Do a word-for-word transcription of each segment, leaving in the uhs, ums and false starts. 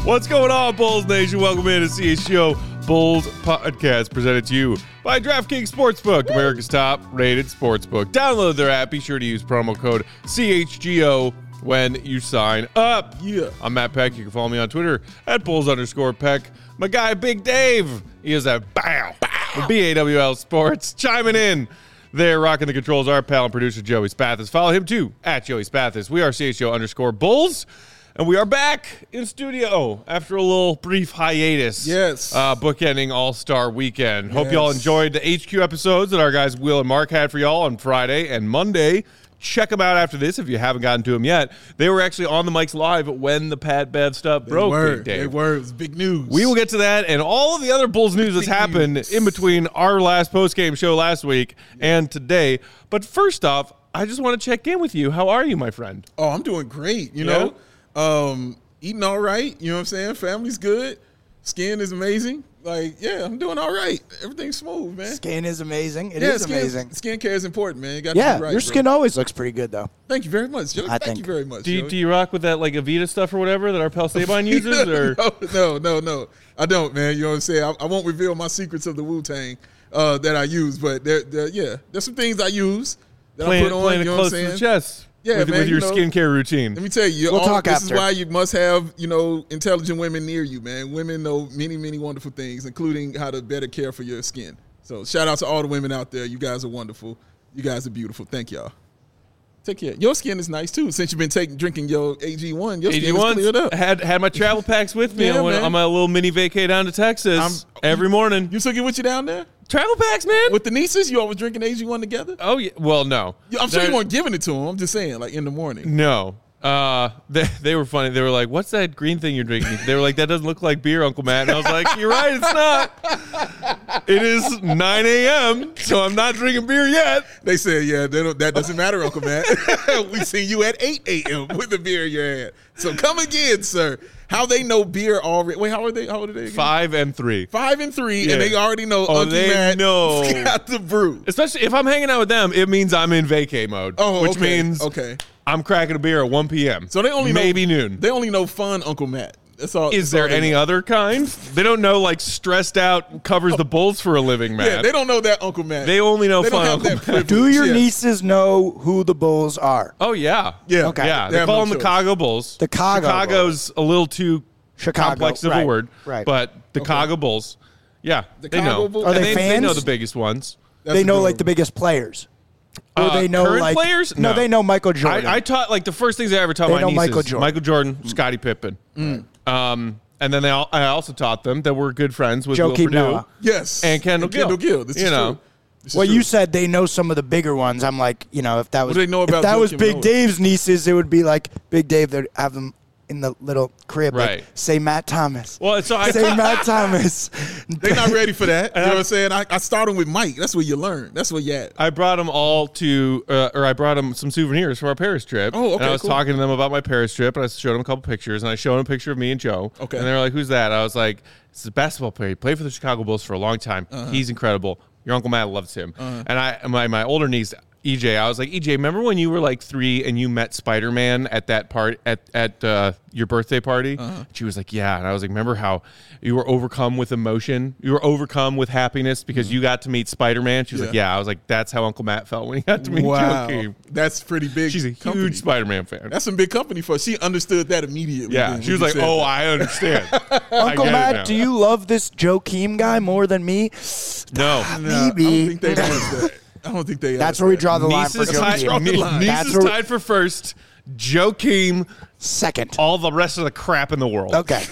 What's going on, Bulls Nation? Welcome in to C H G O Bulls Podcast, presented to you by DraftKings Sportsbook, America's top-rated sportsbook. Download their app. Be sure to use promo code C H G O when you sign up. Yeah. I'm Matt Peck. You can follow me on Twitter at Bulls underscore Peck. My guy, Big Dave. He is at Bow. Bow. B A W L Sports. Chiming in. There, rocking the controls, our pal and producer, Joey Spathis. Follow him, too, at Joey Spathis. We are C H G O underscore Bulls. And we are back in studio after a little brief hiatus. Yes. Uh, bookending All-Star Weekend. Yes. Hope y'all enjoyed the H Q episodes that our guys Will and Mark had for y'all on Friday and Monday. Check them out after this if you haven't gotten to them yet. They were actually on the mics live when the Pat Bev stuff They broke. were. Big Dave. They were. It was big news. We will get to that and all of the other Bulls news that's Big happened news. in between our last post-game show last week and today. But first off, I just want to check in with you. How are you, my friend? Oh, I'm doing great. You know, um, eating all right. You know what I'm saying? Family's good. Skin is amazing. Like, yeah, I'm doing all right. Everything's smooth, man. Skin is amazing. It yeah, is skin, amazing. Skincare is important, man. You got Yeah, to be right, your bro. skin always looks pretty good, though. Thank you very much, Joey. I Thank think. you very much. Do you, Joey. do you rock with that like Avita stuff or whatever that our pal Saban uses? Or no, no, no, no. I don't, man. You know what I'm saying? I, I won't reveal my secrets of the Wu-Tang uh, that I use, but there, there, yeah, there's some things I use that playing, I put on. playing You it know close what I'm to the saying? chest Yeah, with, man, with your you know, skincare routine. Let me tell you, We'll all, talk this after. is why you must have, you know, intelligent women near you, man. Women know many, many wonderful things, including how to better care for your skin. So shout out to all the women out there. You guys are wonderful. You guys are beautiful. Thank y'all. Take care. Your skin is nice, too. Since you've been taking drinking your A G one, your skin is cleared up. had had my travel packs with me Yeah, on, man. on my little mini vacay down to Texas I'm- every morning. You took it with you down there? Travel packs, man. With the nieces? You always drinking A G one together? oh yeah. Well, no. Yeah, I'm sure They're- you weren't giving it to them. I'm just saying, like, in the morning. No. Uh, they, they were funny. They were like, "What's that green thing you're drinking?" They were like, "That doesn't look like beer, Uncle Matt." And I was like, "You're right, it's not. It is nine a.m., so I'm not drinking beer yet." They said, yeah, they don't, that doesn't matter, Uncle Matt. We seen you at eight a.m. with the beer in your hand. So come again, sir. How they know beer already? Wait, how are they? How old are they again? Five and three. Five and three, Yeah. and they already know Oh, Uncle they Matt know. got the brew. Especially if I'm hanging out with them, it means I'm in vacay mode. Oh, which okay. means okay. I'm cracking a beer at one p.m. So they only maybe know, noon. They only know fun Uncle Matt. That's all. Is that's all there they any know. other kind? They don't know like stressed out covers the Bulls for a living, man. Yeah, they don't know that Uncle Matt. They only know They don't fun have Uncle that Matt. privilege. Do your Yeah. nieces know who the Bulls are? Oh yeah, Yeah. Okay. yeah. They They have call no them the choice. Chicago Bulls. The Chicago Chicago's a little too Chicago, complex of right, a word, right. but the Chicago Bulls. Yeah, The they Chicago know. Bulls? Are And they They know fans? the biggest ones. That's They a know good like one. the biggest players. Or Uh, they know current like players? No, No. they know Michael Jordan. I, I taught like the first things I ever taught They my know nieces: Michael Jordan. Michael Jordan, Scottie Pippen. Um, and then they all, I also taught them that we're good friends with Will Joakim Purdue Noah. Yes. and Kendall Gill. Kendall Gill. This You is know. true. This is well, true. you said they know some of the bigger ones. I'm like, you know, if that was do they know about if that was Joakim Big Noah? Dave's nieces, it would be like Big Dave. They'd have them in the little crib. like, Right. say Matt Thomas. Well, so I say Matt Thomas. They're not ready for that. You know what I'm saying? I, I started with Mike. That's where you learn. That's where you at. I brought them all to, uh, or I brought them some souvenirs for our Paris trip. Oh, okay, And I was cool. talking to them about my Paris trip, and I showed them a couple pictures, and I showed them a picture of me and Joe. Okay. And they were like, "Who's that?" I was like, "It's a basketball player. He played for the Chicago Bulls for a long time. Uh-huh. He's incredible. Your Uncle Matt loves him." And I, my my older niece, E J, I was like, E J, remember when you were like three and you met Spider-Man at that part at at uh, your birthday party? Uh-huh. She was like, yeah. And I was like, remember how you were overcome with emotion? You were overcome with happiness because you got to meet Spider-Man? She was like, Mm-hmm. Yeah. yeah. I was like, that's how Uncle Matt felt when he got to meet Wow. Joakim. That's pretty big. She's a company. huge Spider-Man fan. That's some big company for her. She understood that immediately. yeah. then She when was you like, said oh, that. I understand. Uncle I get it Matt, now. do you love this Joakim guy more than me? No. Nah, I Maybe. don't think they asked that. I don't think they That's asked where we that. draw the line Niece for is tied, Joakim. Draw the line. niece That's is where- tied for first. Joakim, Second. all the rest of the crap in the world. Okay.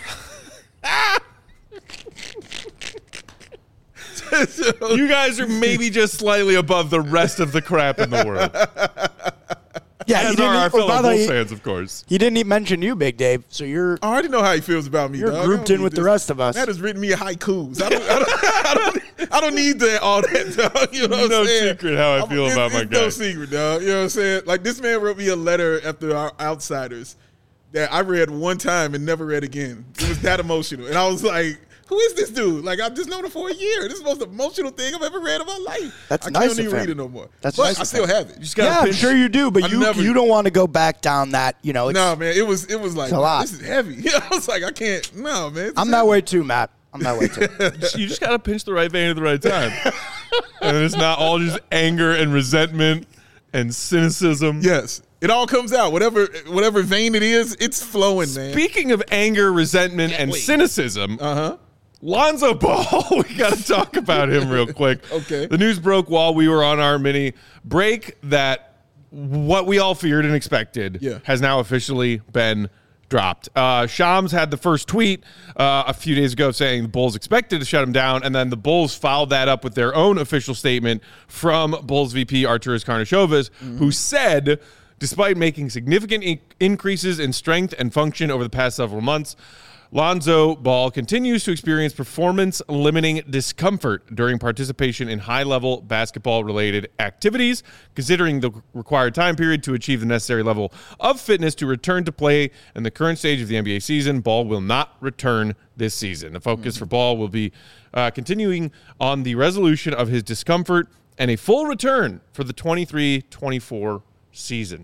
You guys are maybe just slightly above the rest of the crap in the world. Yeah, he As didn't, are our oh, fellow by the way, Bulls he- fans, of course. he didn't even mention you, Big Dave. So you're I already know how he feels about me. You're dog. I grouped don't in need with the this. rest of us. Matt has written me haikus. I don't, I don't, I don't, I don't need that all that, dog. You know what No I'm saying? secret how I feel it's, about my it's guy. No secret, dog. You know what I'm saying? Like, this man wrote me a letter after our Outsiders that I read one time and never read again. It was that emotional. And I was like, Who is this dude? Like, I've just known him for a year. This is the most emotional thing I've ever read in my life. That's I nice can't of even him. read it no more. That's but nice I of still him. have it. You just gotta Yeah, I'm pinch- sure you do, but I you never- you don't want to go back down that. You know, it's, No, man, it was it was like, It's a lot. this is heavy. I was like, I can't. No, man. I'm that way too, Matt. I'm that way too. You just gotta pinch the right vein at the right time, and it's not all just anger and resentment and cynicism. Yes, it all comes out. Whatever whatever vein it is, it's flowing, man. Speaking of anger, resentment, and wait. cynicism, Uh huh. Lonzo Ball, we got to talk about him real quick. Okay. The news broke while we were on our mini break that what we all feared and expected Yeah. has now officially been dropped. Uh, Shams had the first tweet uh, a few days ago saying the Bulls expected to shut him down, and then the Bulls followed that up with their own official statement from Bulls V P Arturas Karnisovas, mm-hmm. who said, despite making significant in- increases in strength and function over the past several months, Lonzo Ball continues to experience performance-limiting discomfort during participation in high-level basketball-related activities. Considering the required time period to achieve the necessary level of fitness to return to play in the current stage of the N B A season, Ball will not return this season. The focus mm-hmm. for Ball will be uh, continuing on the resolution of his discomfort and a full return for the twenty-three twenty-four season.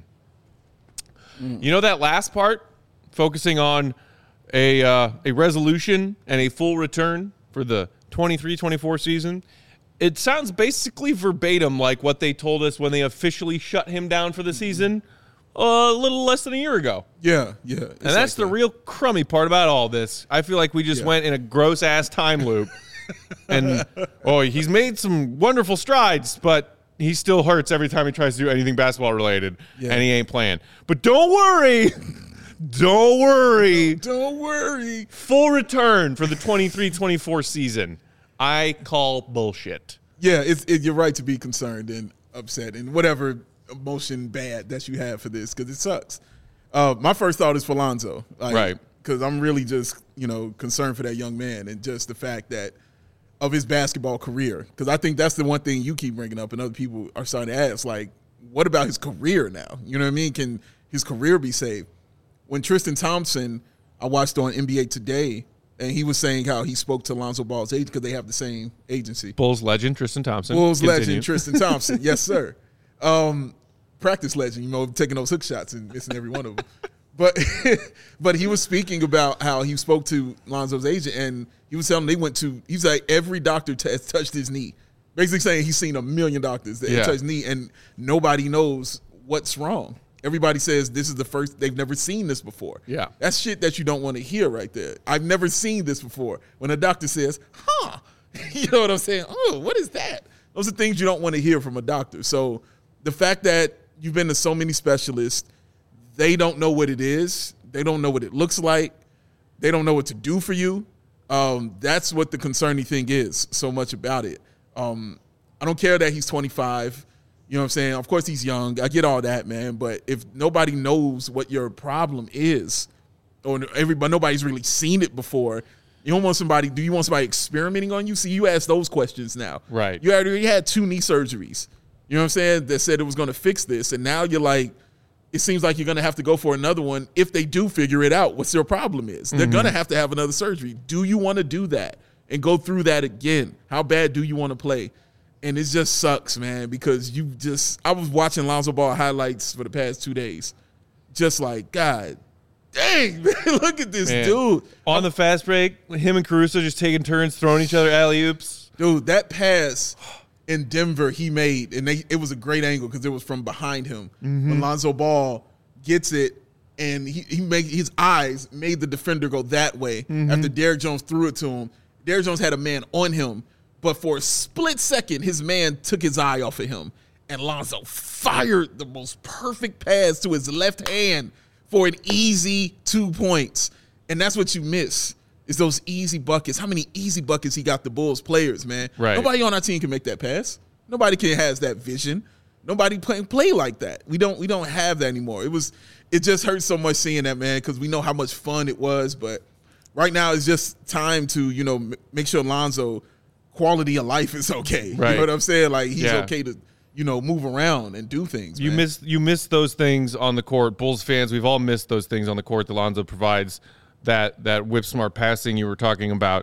Mm. You know that last part, focusing on a uh, a resolution and a full return for the twenty-three twenty-four season, it sounds basically verbatim like what they told us when they officially shut him down for the season a little less than a year ago. Yeah, yeah. And that's like the real crummy part about all this. I feel like we just Yeah. went in a gross-ass time loop. And, oh, he's made some wonderful strides, but he still hurts every time he tries to do anything basketball-related, Yeah. and he ain't playing. But don't worry. Don't worry. Don't worry. Full return for the twenty-three twenty-four season. I call bullshit. Yeah, it's it, you're right to be concerned and upset and whatever emotion bad that you have for this because it sucks. Uh, my first thought is for Lonzo, like, Right? Because I'm really just you know concerned for that young man and just the fact that of his basketball career. Because I think that's the one thing you keep bringing up and other people are starting to ask, like, what about his career now? You know what I mean? Can his career be saved? When Tristan Thompson, I watched on N B A Today, and he was saying how he spoke to Lonzo Ball's agent because they have the same agency. Bulls legend Tristan Thompson. Bulls Continue. legend Tristan Thompson. Yes, sir. Um, practice legend, you know, taking those hook shots and missing every one of them. But but he was speaking about how he spoke to Lonzo's agent, and he was telling them they went to, he's like, every doctor t- has touched his knee. Basically saying he's seen a million doctors that Yeah. touched his knee, and nobody knows what's wrong. Everybody says this is the first, they've never seen this before. Yeah. That's shit that you don't want to hear right there. I've never seen this before. When a doctor says, huh, you know what I'm saying? Oh, what is that? Those are things you don't want to hear from a doctor. So the fact that you've been to so many specialists, they don't know what it is. They don't know what it looks like. They don't know what to do for you. Um, that's what the concerning thing is so much about it. Um, I don't care that he's twenty-five. You know what I'm saying? Of course he's young. I get all that, man. But if nobody knows what your problem is, or everybody, nobody's really seen it before, you don't want somebody, do you want somebody experimenting on you? See, you ask those questions now. Right. You already had two knee surgeries. You know what I'm saying? That said it was going to fix this. And now you're like, it seems like you're going to have to go for another one if they do figure it out, what their problem is. They're Mm-hmm. going to have to have another surgery. Do you want to do that and go through that again? How bad do you want to play? And it just sucks, man, because you just – I was watching Lonzo Ball highlights for the past two days. Just like, God dang, man, look at this Man. dude. On the fast break, him and Caruso just taking turns throwing each other alley-oops. Dude, that pass in Denver he made, and they, it was a great angle because it was from behind him. Mm-hmm. When Lonzo Ball gets it, and he, he made his eyes made the defender go that way Mm-hmm. after Derrick Jones threw it to him. Derrick Jones had a man on him, but for a split second, his man took his eye off of him, and Lonzo fired the most perfect pass to his left hand for an easy two points. And that's what you miss, is those easy buckets. How many easy buckets he got the Bulls players, man? Right. Nobody on our team can make that pass. Nobody can has that vision. Nobody play, play like that. We don't we don't have that anymore. It was it just hurts so much seeing that, man, because we know how much fun it was. But right now it's just time to, you know, m- make sure Lonzo quality of life is okay. Right. You know what I'm saying? Like he's Yeah. okay to, you know, move around and do things. You man. miss you miss those things on the court. Bulls fans, we've all missed those things on the court that Lonzo provides. That that whip smart passing you were talking about.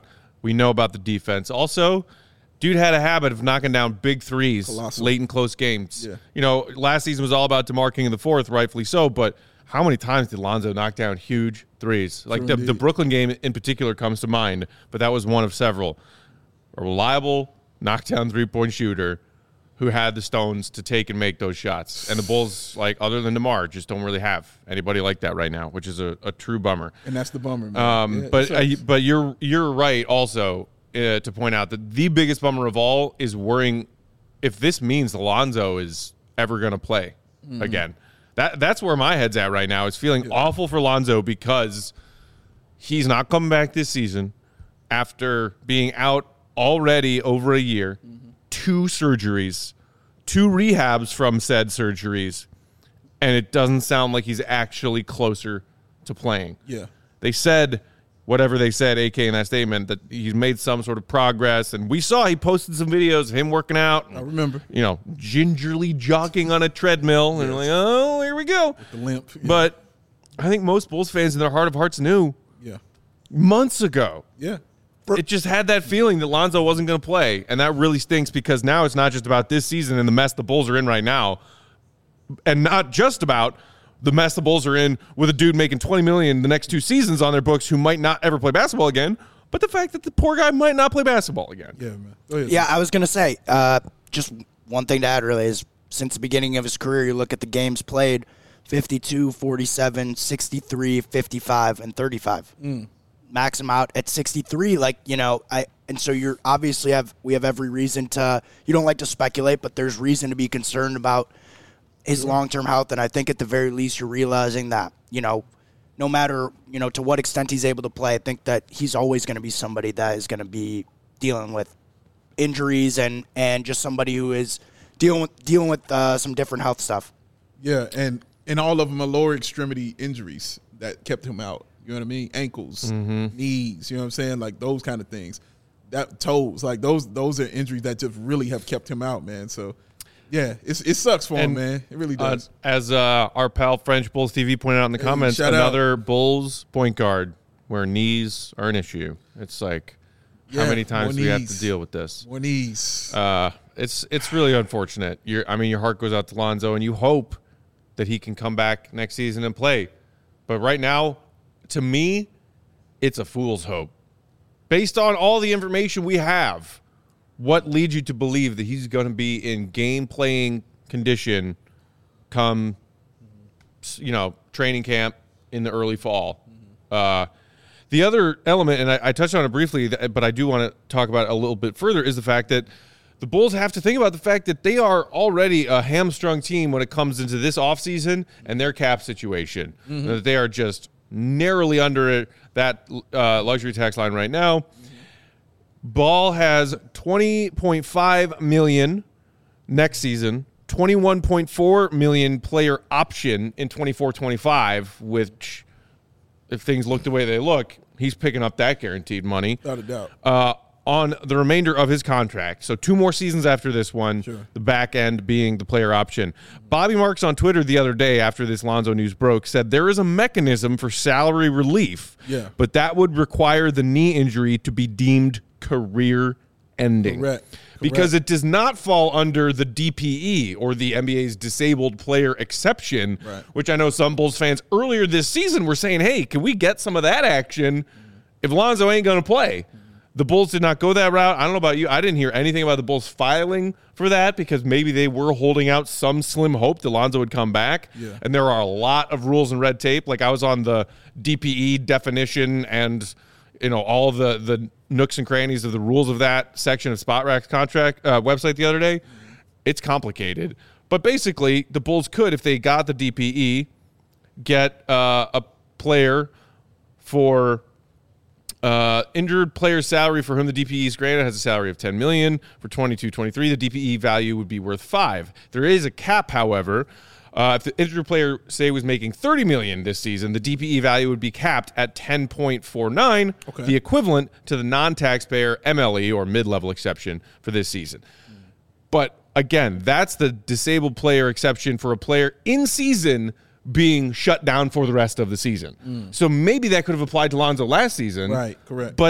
We know about the defense. Also, dude had a habit of knocking down big threes Colossal. late in close games. Yeah. You know, last season was all about DeMar King in the fourth, rightfully so, but how many times did Lonzo knock down huge threes? Like the, the Brooklyn game in particular comes to mind, but that was one of several. A reliable knockdown three-point shooter who had the stones to take and make those shots. And the Bulls, like other than DeMar, just don't really have anybody like that right now, which is a, a true bummer. And that's the bummer, man. Um, Yeah, but it uh, sucks. but you're you're right also uh, to point out that the biggest bummer of all is worrying if this means Lonzo is ever going to play Mm-hmm. again. That that's where my head's at right now. It's feeling Yeah. awful for Lonzo because he's not coming back this season after being out already over a year, Mm-hmm. two surgeries, two rehabs from said surgeries, and it doesn't sound like he's actually closer to playing. Yeah. They said whatever they said, A K in that statement, that he's made some sort of progress. And we saw he posted some videos of him working out. I remember. You know, gingerly jogging on a treadmill. And Yes. like, oh, here we go. The limp. Yeah. But I think most Bulls fans in their heart of hearts knew yeah. months ago. Yeah. It just had that feeling that Lonzo wasn't going to play. And that really stinks because now it's not just about this season and the mess the Bulls are in right now. And not just about the mess the Bulls are in with a dude making twenty million dollars the next two seasons on their books who might not ever play basketball again, but the fact that the poor guy might not play basketball again. Yeah, man. Go ahead. Yeah, I was going to say, uh, just one thing to add really is since the beginning of his career, you look at the games played, fifty-two, forty-seven, sixty-three, fifty-five, and thirty-five. Mm. Max him out at sixty-three, like, you know, I and so you're obviously have we have every reason to, you don't like to speculate, but there's reason to be concerned about his long-term health, and I think at the very least you're realizing that, you know, no matter, you know, to what extent he's able to play, I think that he's always going to be somebody that is going to be dealing with injuries and, and just somebody who is dealing with dealing with uh, some different health stuff. Yeah, and and all of them are lower extremity injuries that kept him out. You know what I mean? Ankles, knees. You know what I'm saying? Like those kind of things. That toes, like those those are injuries that just really have kept him out, man. So, yeah, it's, it sucks for him, And, man. It really Uh, does. as uh, our pal French Bulls T V pointed out in the Hey, comments, shout out. another Bulls point guard where knees are an issue. It's like, how Yeah, many times more do we have knees. to deal with this? More knees. Uh, it's it's really unfortunate. You're, I mean, your heart goes out to Lonzo, and you hope that he can come back next season and play. But right now, to me, it's a fool's hope. Based on all the information we have, what leads you to believe that he's going to be in game-playing condition come, you know, training camp in the early fall? Uh, the other element, and I, I touched on it briefly, but I do want to talk about it a little bit further, is the fact that the Bulls have to think about the fact that they are already a hamstrung team when it comes into this offseason and their cap situation. Mm-hmm. That they are just narrowly under that uh, luxury tax line right now. Mm-hmm. Ball has twenty point five million dollars next season, twenty-one point four million dollars player option in twenty-four twenty-five, which, if things look the way they look, he's picking up that guaranteed money. Without a doubt. Uh, on the remainder of his contract. So two more seasons after this one, Sure. the back end being the player option. Bobby Marks on Twitter the other day after this Lonzo news broke said there is a mechanism for salary relief, Yeah. but that would require the knee injury to be deemed career ending. Correct. Because Correct. it does not fall under the D P E or the N B A's disabled player exception, Right. which I know some Bulls fans earlier this season were saying, hey, can we get some of that action if Lonzo ain't going to play? The Bulls did not go that route. I don't know about you. I didn't hear anything about the Bulls filing for that because maybe they were holding out some slim hope that Lonzo would come back. Yeah. And there are a lot of rules and red tape. Like I was on the D P E definition and, you know, all the, the nooks and crannies of the rules of that section of Spot Rack's contract uh, website the other day. It's complicated. But basically, the Bulls could, if they got the D P E, get uh, a player for uh, injured player salary for whom the D P E is granted has a salary of ten million dollars. For twenty-two twenty-three, the D P E value would be worth five. There is a cap, however. Uh, if the injured player, say, was making thirty million dollars this season, the D P E value would be capped at ten point four nine, Okay. the equivalent to the non-taxpayer M L E or mid-level exception for this season. But again, that's the disabled player exception for a player in season being shut down for the rest of the season. So maybe that could have applied to Lonzo last season. Right, correct. But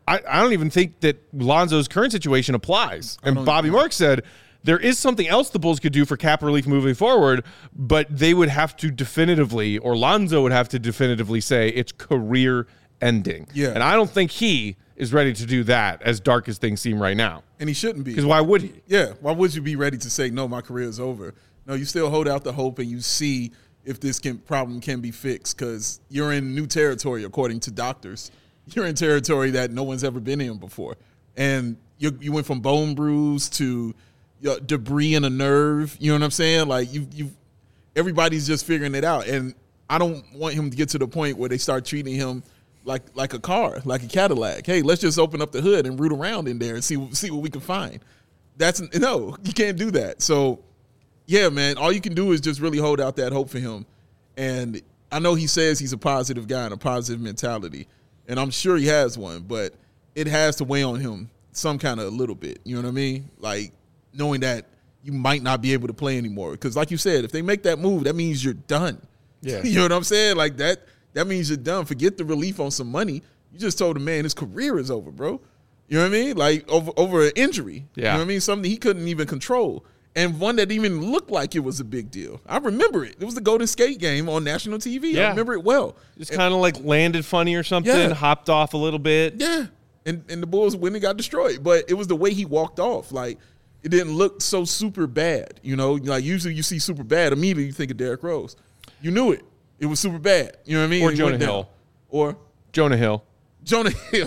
I, I don't even think that Lonzo's current situation applies. And Bobby Marks said there is something else the Bulls could do for cap relief moving forward, but they would have to definitively, or Lonzo would have to definitively say it's career ending. Yeah. And I don't think he is ready to do that, as dark as things seem right now. And he shouldn't be. Because why would he? Yeah. Why would you be ready to say, no, my career is over? No, you still hold out the hope and you see if this can, problem can be fixed, because you're in new territory, according to doctors. You're in territory that no one's ever been in before. And you you went from bone bruise to you know, debris in a nerve. You know what I'm saying? Like, you you everybody's just figuring it out. And I don't want him to get to the point where they start treating him like like a car, like a Cadillac. Hey, let's just open up the hood and root around in there and see see what we can find. That's no, you can't do that. So, yeah, man, all you can do is just really hold out that hope for him. And I know he says he's a positive guy and a positive mentality, and I'm sure he has one, but it has to weigh on him some kind of a little bit. You know what I mean? Like, knowing that you might not be able to play anymore. Because like you said, if they make that move, that means you're done. Yeah. You know what I'm saying? Like, that that means you're done. Forget the relief on some money. You just told a man his career is over, bro. You know what I mean? Like, over over an injury. Yeah. You know what I mean? Something he couldn't even control. And one that even looked like it was a big deal. I remember it. It was the Golden State game on national T V. Yeah. I remember it well. Just kind of like landed funny or something, Yeah. hopped off a little bit. Yeah. And and the Bulls went and got destroyed. But it was the way he walked off. Like, it didn't look so super bad. You know, like usually you see super bad, immediately you think of Derrick Rose. You knew it. It was super bad. You know what I mean? Or And he Jonah went down. Hill. Or Jonah Hill. Jonah Hill.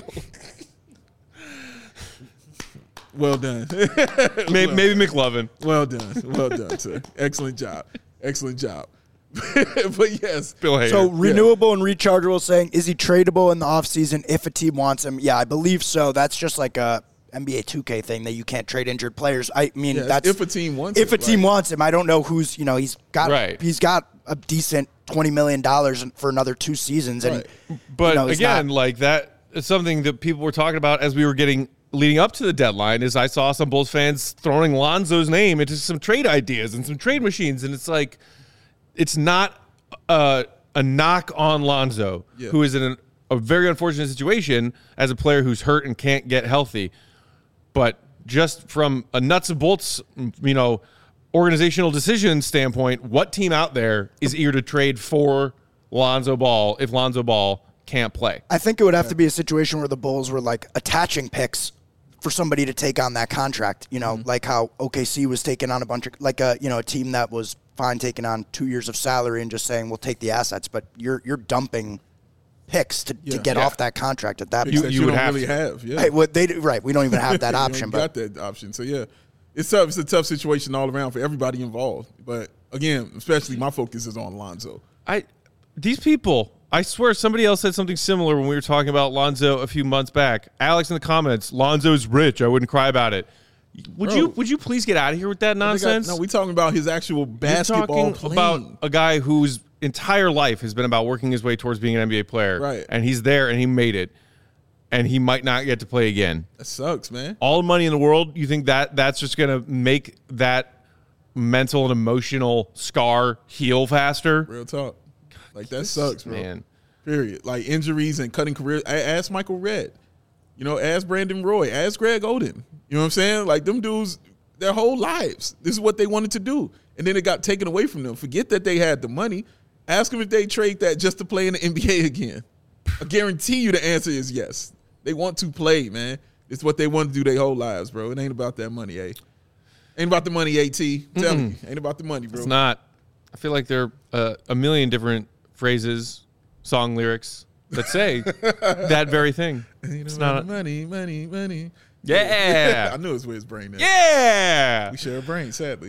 Well done. Maybe, maybe McLovin. Well done. Well done, sir. Excellent job. Excellent job. But yes. Bill Hader. So renewable and rechargeable, saying, is he tradable in the offseason if a team wants him? Yeah, I believe so. That's just like a N B A two K thing that you can't trade injured players. I mean, Yeah, that's if a team wants if it, a team right. wants him. I don't know who's, you know, he's got Right. he's got a decent twenty million dollars for another two seasons. And, Right. But you know, he's again, not- like that is something that people were talking about as we were getting leading up to the deadline. Is I saw some Bulls fans throwing Lonzo's name into some trade ideas and some trade machines, and it's like it's not a, a knock on Lonzo, Yeah. who is in a, a very unfortunate situation as a player who's hurt and can't get healthy. But just from a nuts and bolts, you know, organizational decision standpoint, what team out there is eager to trade for Lonzo Ball if Lonzo Ball can't play? I think it would have to be a situation where the Bulls were like attaching picks for somebody to take on that contract. You know, like how O K C was taking on a bunch of like a you know a team that was fine taking on two years of salary and just saying we'll take the assets, but you're you're dumping picks to, Yeah. to get Yeah. off that contract at that Picks point. that you you, would don't have really to. have. Yeah. Hey, what they do, right? We don't even have that You option. ain't But got that option. So yeah, it's tough. It's a tough situation all around for everybody involved. But again, especially my focus is on Lonzo. I these people, I swear somebody else said something similar when we were talking about Lonzo a few months back. Alex in the comments, Lonzo's rich. I wouldn't cry about it. Would Bro. you would you please get out of here with that They got- nonsense? no, we talking about his actual You're basketball talking playing. about a guy whose entire life has been about working his way towards being an N B A player. Right. And he's there and he made it. And he might not get to play again. That sucks, man. All the money in the world, you think that that's just going to make that mental and emotional scar heal faster? Real talk. Like, that sucks, bro. Man. Period. Like, injuries and cutting careers. A- Ask Michael Redd. You know, ask Brandon Roy. Ask Greg Oden. You know what I'm saying? Like, them dudes, their whole lives, this is what they wanted to do. And then it got taken away from them. Forget that they had the money. Ask them if they trade that just to play in the N B A again. I guarantee you the answer is yes. They want to play, man. It's what they want to do their whole lives, bro. It ain't about that money, eh? Ain't about the money, AT. Tell me. Ain't about the money, bro. It's not. I feel like there are uh, a million different phrases, song lyrics that say that very thing. Ain't It's about not. the money, money, money. Yeah. I knew it's where his brain is. Yeah. We share a brain, sadly.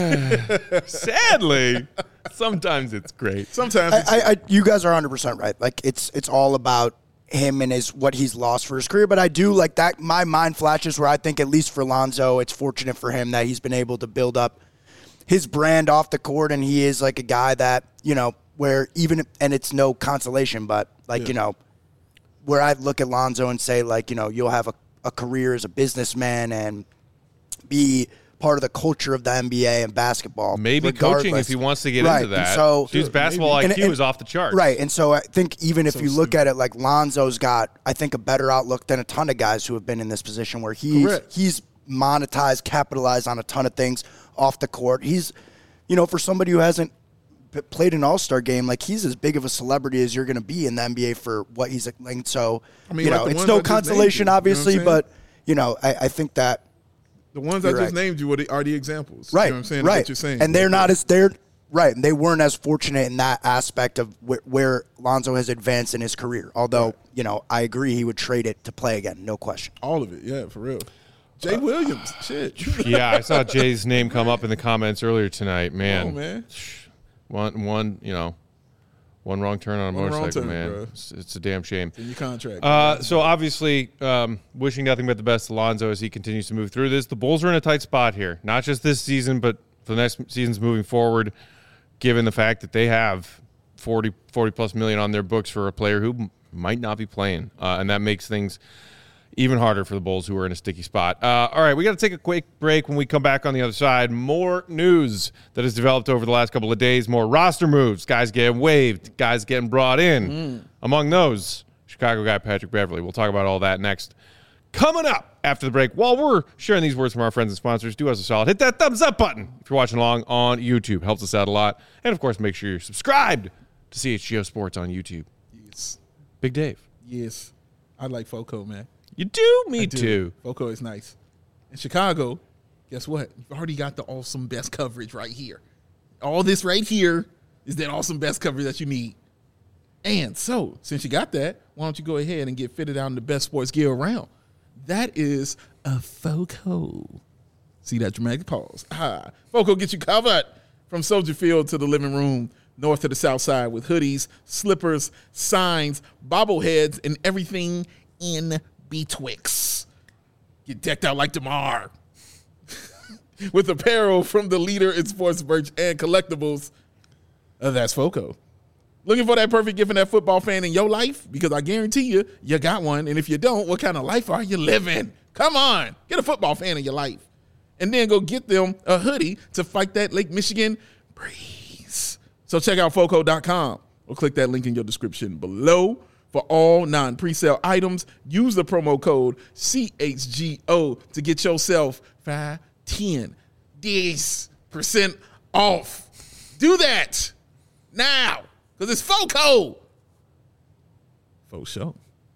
Sadly, sometimes it's great. Sometimes it's, I, I, I, you guys are one hundred percent right. Like it's it's all about him and his what he's lost for his career. But I do like that. My mind flashes where I think at least for Lonzo, it's fortunate for him that he's been able to build up his brand off the court, and he is like a guy that you know where even and it's no consolation, but like Yeah. you know where I look at Lonzo and say like you know you'll have a, a career as a businessman and be part of the culture of the N B A and basketball. Maybe regardless. coaching if he wants to get right. into that. And so his basketball maybe. I Q and, and, is off the charts. Right. And so I think even if So you look stupid. at it, like Lonzo's got, I think, a better outlook than a ton of guys who have been in this position where he's Correct. he's monetized, capitalized on a ton of things off the court. He's, you know, for somebody who hasn't p- played an All-Star game, like he's as big of a celebrity as you're going to be in the N B A for what he's like. So, I mean, you like know, the it's ones no I just named consolation, you, you know what I'm obviously, saying? but, you know, I, I think that. The ones I You're just right. named you are the, are the examples. Right, You know what I'm saying? right. What you're saying. And they're not as they're right, and they weren't as fortunate in that aspect of where, where Lonzo has advanced in his career. Although, Right. you know, I agree he would trade it to play again, no question. all of it. Yeah, for real. Jay Williams. Shit. Yeah, I saw Jay's name come up in the comments earlier tonight. Man, Oh, man. one one you know, one wrong turn on a One wrong motorcycle, turn, man. bro. It's, it's a damn shame. In your contract. Uh, so obviously, um, wishing nothing but the best to Lonzo as he continues to move through this. The Bulls are in a tight spot here, not just this season, but for the next seasons moving forward. Given the fact that they have forty, forty plus million on their books for a player who m- might not be playing, uh, and that makes things even harder for the Bulls, who are in a sticky spot. Uh, all right, we got to take a quick break. When we come back on the other side, more news that has developed over the last couple of days, more roster moves, guys getting waived, guys getting brought in. Mm. Among those, Chicago guy Patrick Beverley. We'll talk about all that next. Coming up after the break, while we're sharing these words from our friends and sponsors, do us a solid. Hit that thumbs up button if you're watching along on YouTube. Helps us out a lot. And, of course, make sure you're subscribed to C H G O Sports on YouTube. yes. Big Dave. Yes. I like Foco, man. You do? Me I do. too. Foco is nice. In Chicago, guess what? You've already got the awesome best coverage right here. All this right here is that awesome best coverage that you need. And so, since you got that, why don't you go ahead and get fitted out in the best sports gear around? That is a Foco. See that dramatic pause? Ah, Foco gets you covered from Soldier Field to the living room, north to the south side, with hoodies, slippers, signs, bobbleheads, and everything in betwixt. Get decked out like DeMar. With apparel from the leader in sports merch and collectibles. Uh, that's Foco. Looking for that perfect gift for that football fan in your life? Because I guarantee you, you got one. And if you don't, what kind of life are you living? Come on. Get a football fan in your life. And then go get them a hoodie to fight that Lake Michigan breeze. So check out Foco dot com or click that link in your description below for all non-presale items. Use the promo code C H G O to get yourself five, ten, this percent off. Do that now. Because it's Foco. Faux show.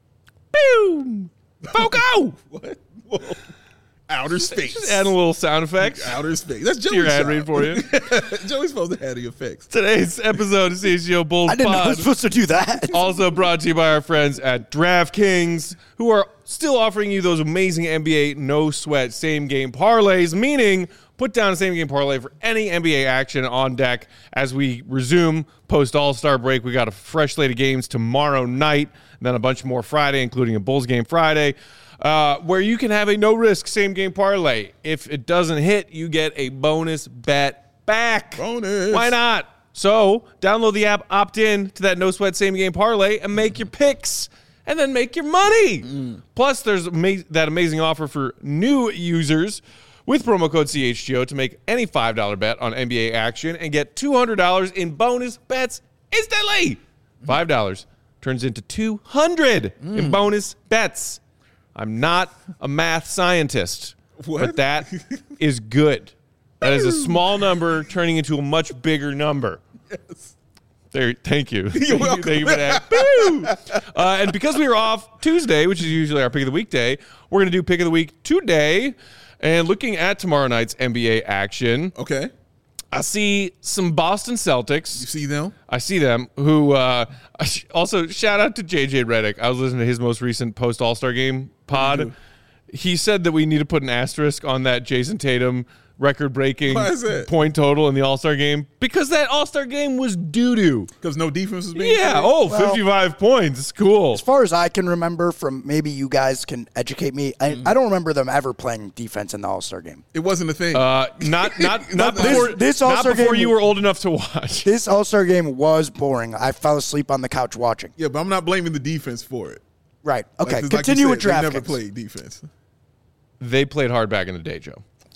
Boom! Foco! What? Whoa. Outer space. Just add a little sound effects. Outer space. That's Joey's Your ad job. read for you. Joey's supposed to add the effects. Today's episode of C H G O Bulls I didn't know I Pod. was supposed to do that. Also brought to you by our friends at DraftKings, who are still offering you those amazing N B A no-sweat same-game parlays, meaning put down a same-game parlay for any N B A action on deck as we resume post-All-Star break. We got a fresh slate of games tomorrow night, and then a bunch more Friday, including a Bulls game Friday, uh, where you can have a no-risk same-game parlay. If it doesn't hit, you get a bonus bet back. Bonus. Why not? So download the app, opt in to that no sweat same game parlay, and make your picks, and then make your money. Mm. Plus, there's ama- that amazing offer for new users with promo code C H G O to make any five dollar bet on N B A action and get two hundred dollars in bonus bets instantly. five dollars turns into two hundred dollars mm. in bonus bets. I'm not a math scientist, What? but that is good. That is a small number turning into a much bigger number. Yes. There, thank you. You're welcome. Thank you for that. Boo! Uh, and because we were off Tuesday, which is usually our pick of the week day, we're going to do pick of the week today. And looking at tomorrow night's N B A action, Okay. I see some Boston Celtics. You see them? I see them. Who uh, also shout out to J J Redick. I was listening to his most recent post All Star game pod. He said that we need to put an asterisk on that Jason Tatum record-breaking Why is that? point total in the All-Star game because that All-Star game was doo-doo. Because no defense was being Yeah, played? oh, Well, fifty-five points. Cool. As far as I can remember from maybe you guys can educate me, I, Mm. I don't remember them ever playing defense in the All-Star game. It wasn't a thing. Uh, not not not This- before, this not All-Star before game- you were old enough to watch. This All-Star game was boring. I fell asleep on the couch watching. yeah, but I'm not blaming the defense for it. Right. Okay. Like- 'cause like you Continue said, with they never DraftKings. played defense. They played hard back in the day, Joe.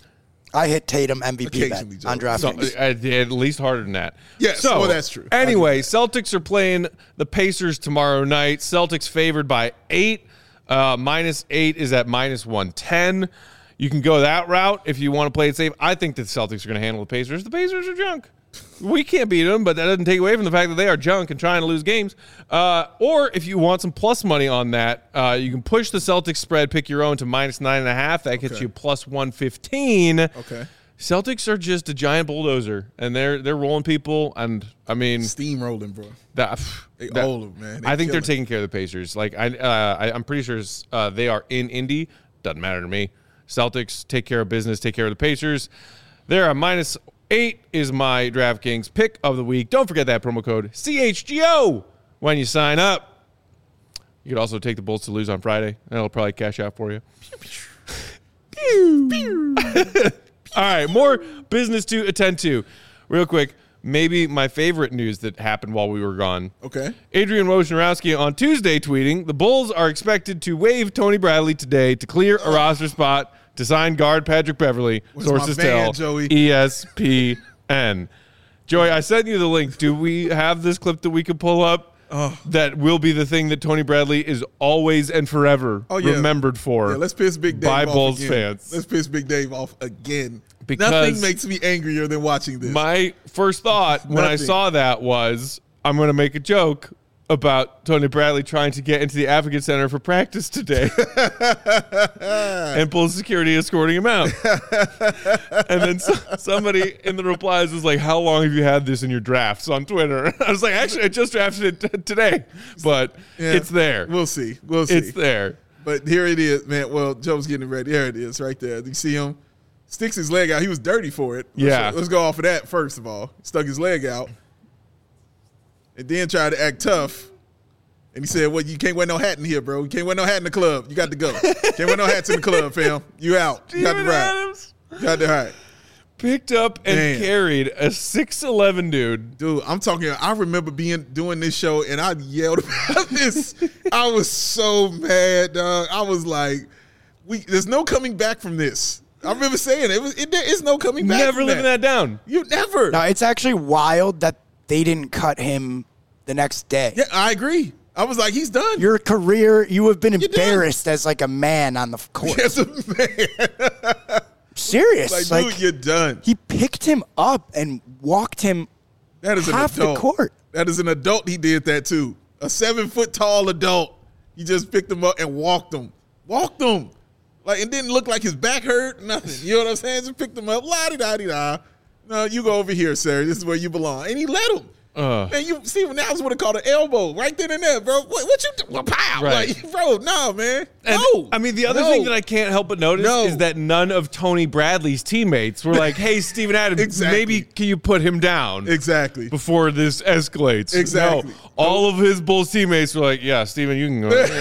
I hit Tatum M V P bet Occasionally, Joe. on DraftKings. So, uh, at least harder than that. Yes, So, well, that's true. I Anyway, Celtics are playing the Pacers tomorrow night. Celtics favored by eight. Uh, minus eight is at minus one ten. You can go that route if you want to play it safe. I think the Celtics are going to handle the Pacers. The Pacers are junk. We can't beat them, but that doesn't take away from the fact that they are junk and trying to lose games. Uh, or if you want some plus money on that, uh, you can push the Celtics spread, pick your own to minus nine and a half. That gets Okay. you plus one fifteen. Okay. Celtics are just a giant bulldozer, and they're they're rolling people. And I mean, Steamrolling, bro. that, They that- old, man. They I think they're killing. taking care of the Pacers. Like I, uh, I I'm pretty sure uh, they are in Indy. Doesn't matter to me. Celtics take care of business. Take care of the Pacers. They're a minus eight is my DraftKings pick of the week. Don't forget that promo code C H G O when you sign up. You could also take the Bulls to lose on Friday. That'll probably cash out for you. All right, more business to attend to. Real quick, maybe my favorite news that happened while we were gone. Okay. Adrian Wojnarowski on Tuesday tweeting, the Bulls are expected to waive Tony Bradley today to clear a roster spot to sign guard Patrick Beverly. Where's my Sources man, tell Joey? E S P N. Joey, I sent you the link. Do we have this clip that we could pull up? Oh. That will be the thing that Tony Bradley is always and forever Oh, yeah. remembered for. Yeah, let's piss Big Dave by off Bulls again. fans. Let's piss Big Dave off again. Because Nothing makes me angrier than watching this. My first thought when I Nothing. saw that was, I'm going to make a joke about Tony Bradley trying to get into the Advocate Center for practice today and Bulls security escorting him out. And then so, somebody in the replies was like, how long have you had this in your drafts on Twitter? I was like, actually, I just drafted it t- today, but Yeah, it's there. We'll see. We'll see. It's there. But here it is, man. Well, Joe's getting ready. There it is right there. Do you see him? Sticks his leg out. He was dirty for it. Let's- Yeah. Let's go off of that first of all. Stuck his leg out. And then tried to act tough. And he said, well, you can't wear no hat in here, bro. You can't wear no hat in the club. You got to go. Can't wear no hats in the club, fam. You out. You got to Steven ride. Adams You got to ride. picked up and Man. carried a six eleven dude. Dude, I'm talking. I remember being doing this show and I yelled about this. I was so mad, dog. I was like, "We, there's no coming back from this." I remember saying it was. It, there is no coming back. Never from living that down. You never. No, it's actually wild that they didn't cut him the next day. Yeah, I agree. I was like, he's done. Your career, you have been done. embarrassed as like a man on the court. As a man, Serious. like, Like, dude, you're done. he picked him up and walked him That is an half adult. the court. That is an adult. He did that too. A seven foot tall adult. He just picked him up and walked him. Walked him. Like, it didn't look like his back hurt. Nothing. You know what I'm saying? Just picked him up. La di da di da. No, you go over here, sir. This is where you belong. And he let him. Uh. Man, you Steven Adams would have called an elbow right then and there, bro. What, what you do? Well, pow. Right. Like, bro, no, man. And, no. I mean, the other No. thing that I can't help but notice No. is that none of Tony Bradley's teammates were like, hey, Steven Adams, Exactly. maybe can you put him down Exactly. before this escalates? Exactly. No, all of his Bulls teammates were like, yeah, Steven, you can go. Go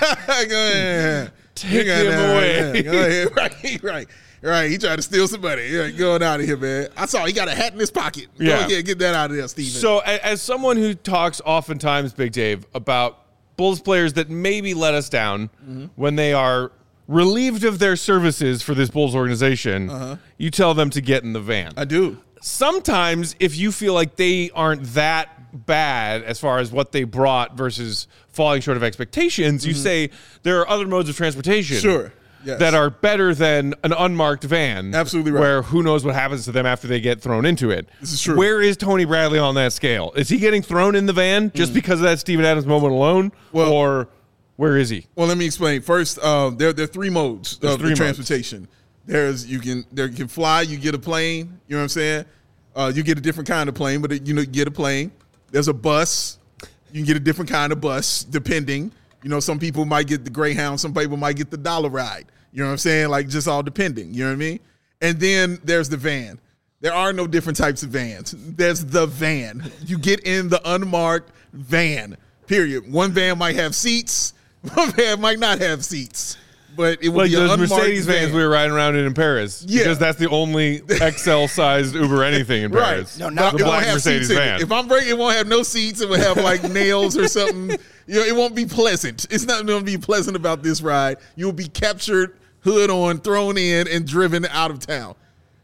ahead. Take You got him that, away. yeah. Go ahead. Right, right. Right. He tried to steal some money. Yeah, going out of here, man. I saw he got a hat in his pocket. Go Yeah. ahead, get that out of there, Steven. So, a- as someone who talks oftentimes, Big Dave, about Bulls players that maybe let us down Mm-hmm. when they are relieved of their services for this Bulls organization, you tell them to get in the van. Uh-huh. I do. Sometimes if you feel like they aren't that bad as far as what they brought versus falling short of expectations, you say there are other modes of transportation Mm-hmm. Sure. Yes. that are better than an unmarked van. Absolutely right. Where who knows what happens to them after they get thrown into it. This is true. Where is Tony Bradley on that scale? Is he getting thrown in the van just because of that Steven Adams moment alone? Mm. Well- or where is he? Well, let me explain. First, um, there, there are three modes There's of three the modes. transportation. There's you can there you can fly, you get a plane. You know what I'm saying? Uh, you get a different kind of plane, but you know you get a plane. There's a bus. You can get a different kind of bus, depending. You know, some people might get the Greyhound, some people might get the dollar ride. You know what I'm saying? Like, just all depending. You know what I mean? And then there's the van. There are no different types of vans. There's the van. You get in the unmarked van, period. One van might have seats. One van might not have seats. But it will Like be an those unmarked Mercedes vans van. we were riding around in in Paris. Yeah. Because that's the only X L-sized Uber anything in Right. Paris. No, not the it won't black have Mercedes seats in van. it. If I'm breaking, it won't have no seats. It will have like nails or something. You know, it won't be pleasant. It's not going to be pleasant about this ride. You'll be captured, hood on, thrown in, and driven out of town.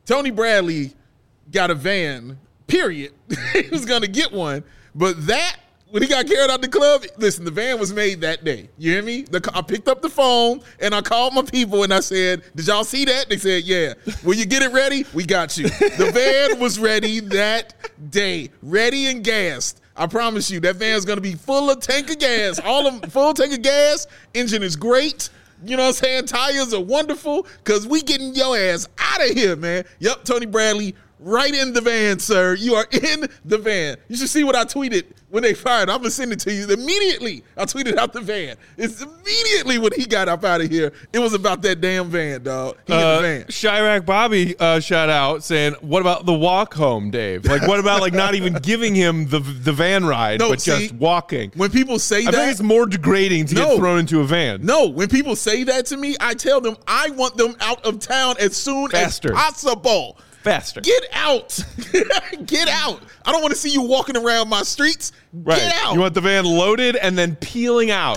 Tony Bradley got a van, period. He was going to get one. But that, when he got carried out the club, listen, the van was made that day. You hear me? The, I picked up the phone, and I called my people, and I said, did y'all see that? They said, yeah. Will you get it ready? We got you. The van was ready that day, ready and gassed. I promise you, that van's going to be full of tank of gas. All of full tank of gas. Engine is great. You know what I'm saying? Tires are wonderful because we getting your ass out of here, man. Yep, Tony Bradley, right in the van, sir. You are in the van. You should see what I tweeted when they fired. I'm going to send it to you. Immediately, I tweeted out the van. It's immediately when he got up out of here, it was about that damn van, dog. He uh, in the van. Chirac Bobby uh, shout out saying, what about the walk home, Dave? Like, what about like not even giving him the the van ride, No, but see, just walking? When people say I that. think it's more degrading to No. get thrown into a van. No, when people say that to me, I tell them I want them out of town as soon Faster. as possible. Faster. Get out. Get out. I don't want to see you walking around my streets. Right. Get out. You want the van loaded and then peeling out.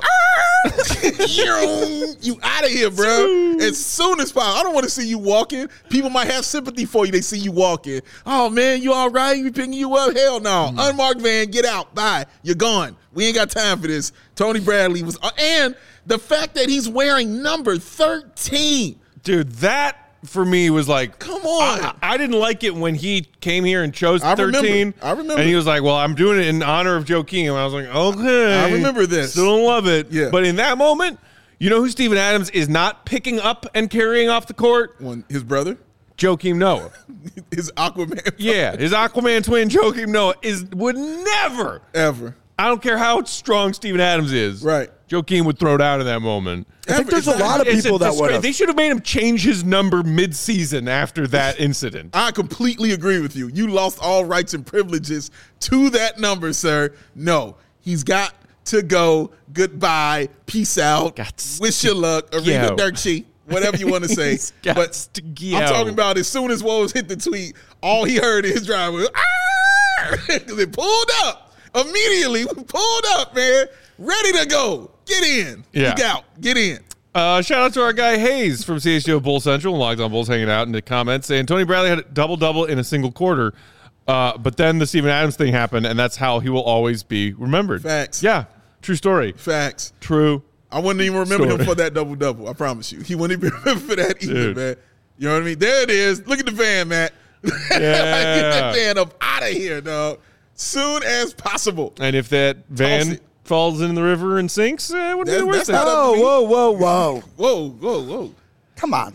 You out of here, bro. As soon as possible. I don't want to see you walking. People might have sympathy for you. They see you walking. Oh, man, you all right? We picking you up? Hell no. Mm. Unmarked van, get out. Bye. You're gone. We ain't got time for this. Tony Bradley was uh, – and the fact that he's wearing number thirteen. Dude, that – for me was like, come on. I, I didn't like it when he came here and chose I thirteen. Remember. I remember. And he was like, well, I'm doing it in honor of Joakim. And I was like, okay. I remember this. Still don't love it. Yeah. But in that moment, you know who Steven Adams is not picking up and carrying off the court? One, his brother? Joakim Noah. His Aquaman. Yeah. His Aquaman twin, Joakim Noah, is would never. Ever. I don't care how strong Steven Adams is. Right. Joakim would throw down in that moment. I think there's a lot of It's a people that disgrace. would. They should have made him change his number mid-season after that incident. I completely agree with you. You lost all rights and privileges to that number, sir. No, he's got to go. Goodbye. Peace out. Gots Wish you luck. Arrivederci. Whatever you want to say. He's But gots to go. I'm talking about as soon as Woj hit the tweet, all he heard in his drive was, because it pulled up. Immediately pulled up, man. Ready to go. Get in. Yeah. Get out. Get in. Uh, shout out to our guy Hayes from C H G O Bull Central and Locked On Bulls hanging out in the comments saying Tony Bradley had a double-double in a single quarter, uh, but then the Steven Adams thing happened, and that's how he will always be remembered. Facts. Yeah, true story. Facts. True. I wouldn't even remember story. him for that double-double. I promise you. He wouldn't even remember for that either, Dude. man. You know what I mean? There it is. Look at the van, Matt. Yeah. Get that van up out of here, dog. Soon as possible. And if that van Toss it. falls in the river and sinks, eh, it wouldn't be That- the worst that's thing. not up Whoa, to me. whoa, whoa, whoa. Whoa, whoa, whoa. Come on.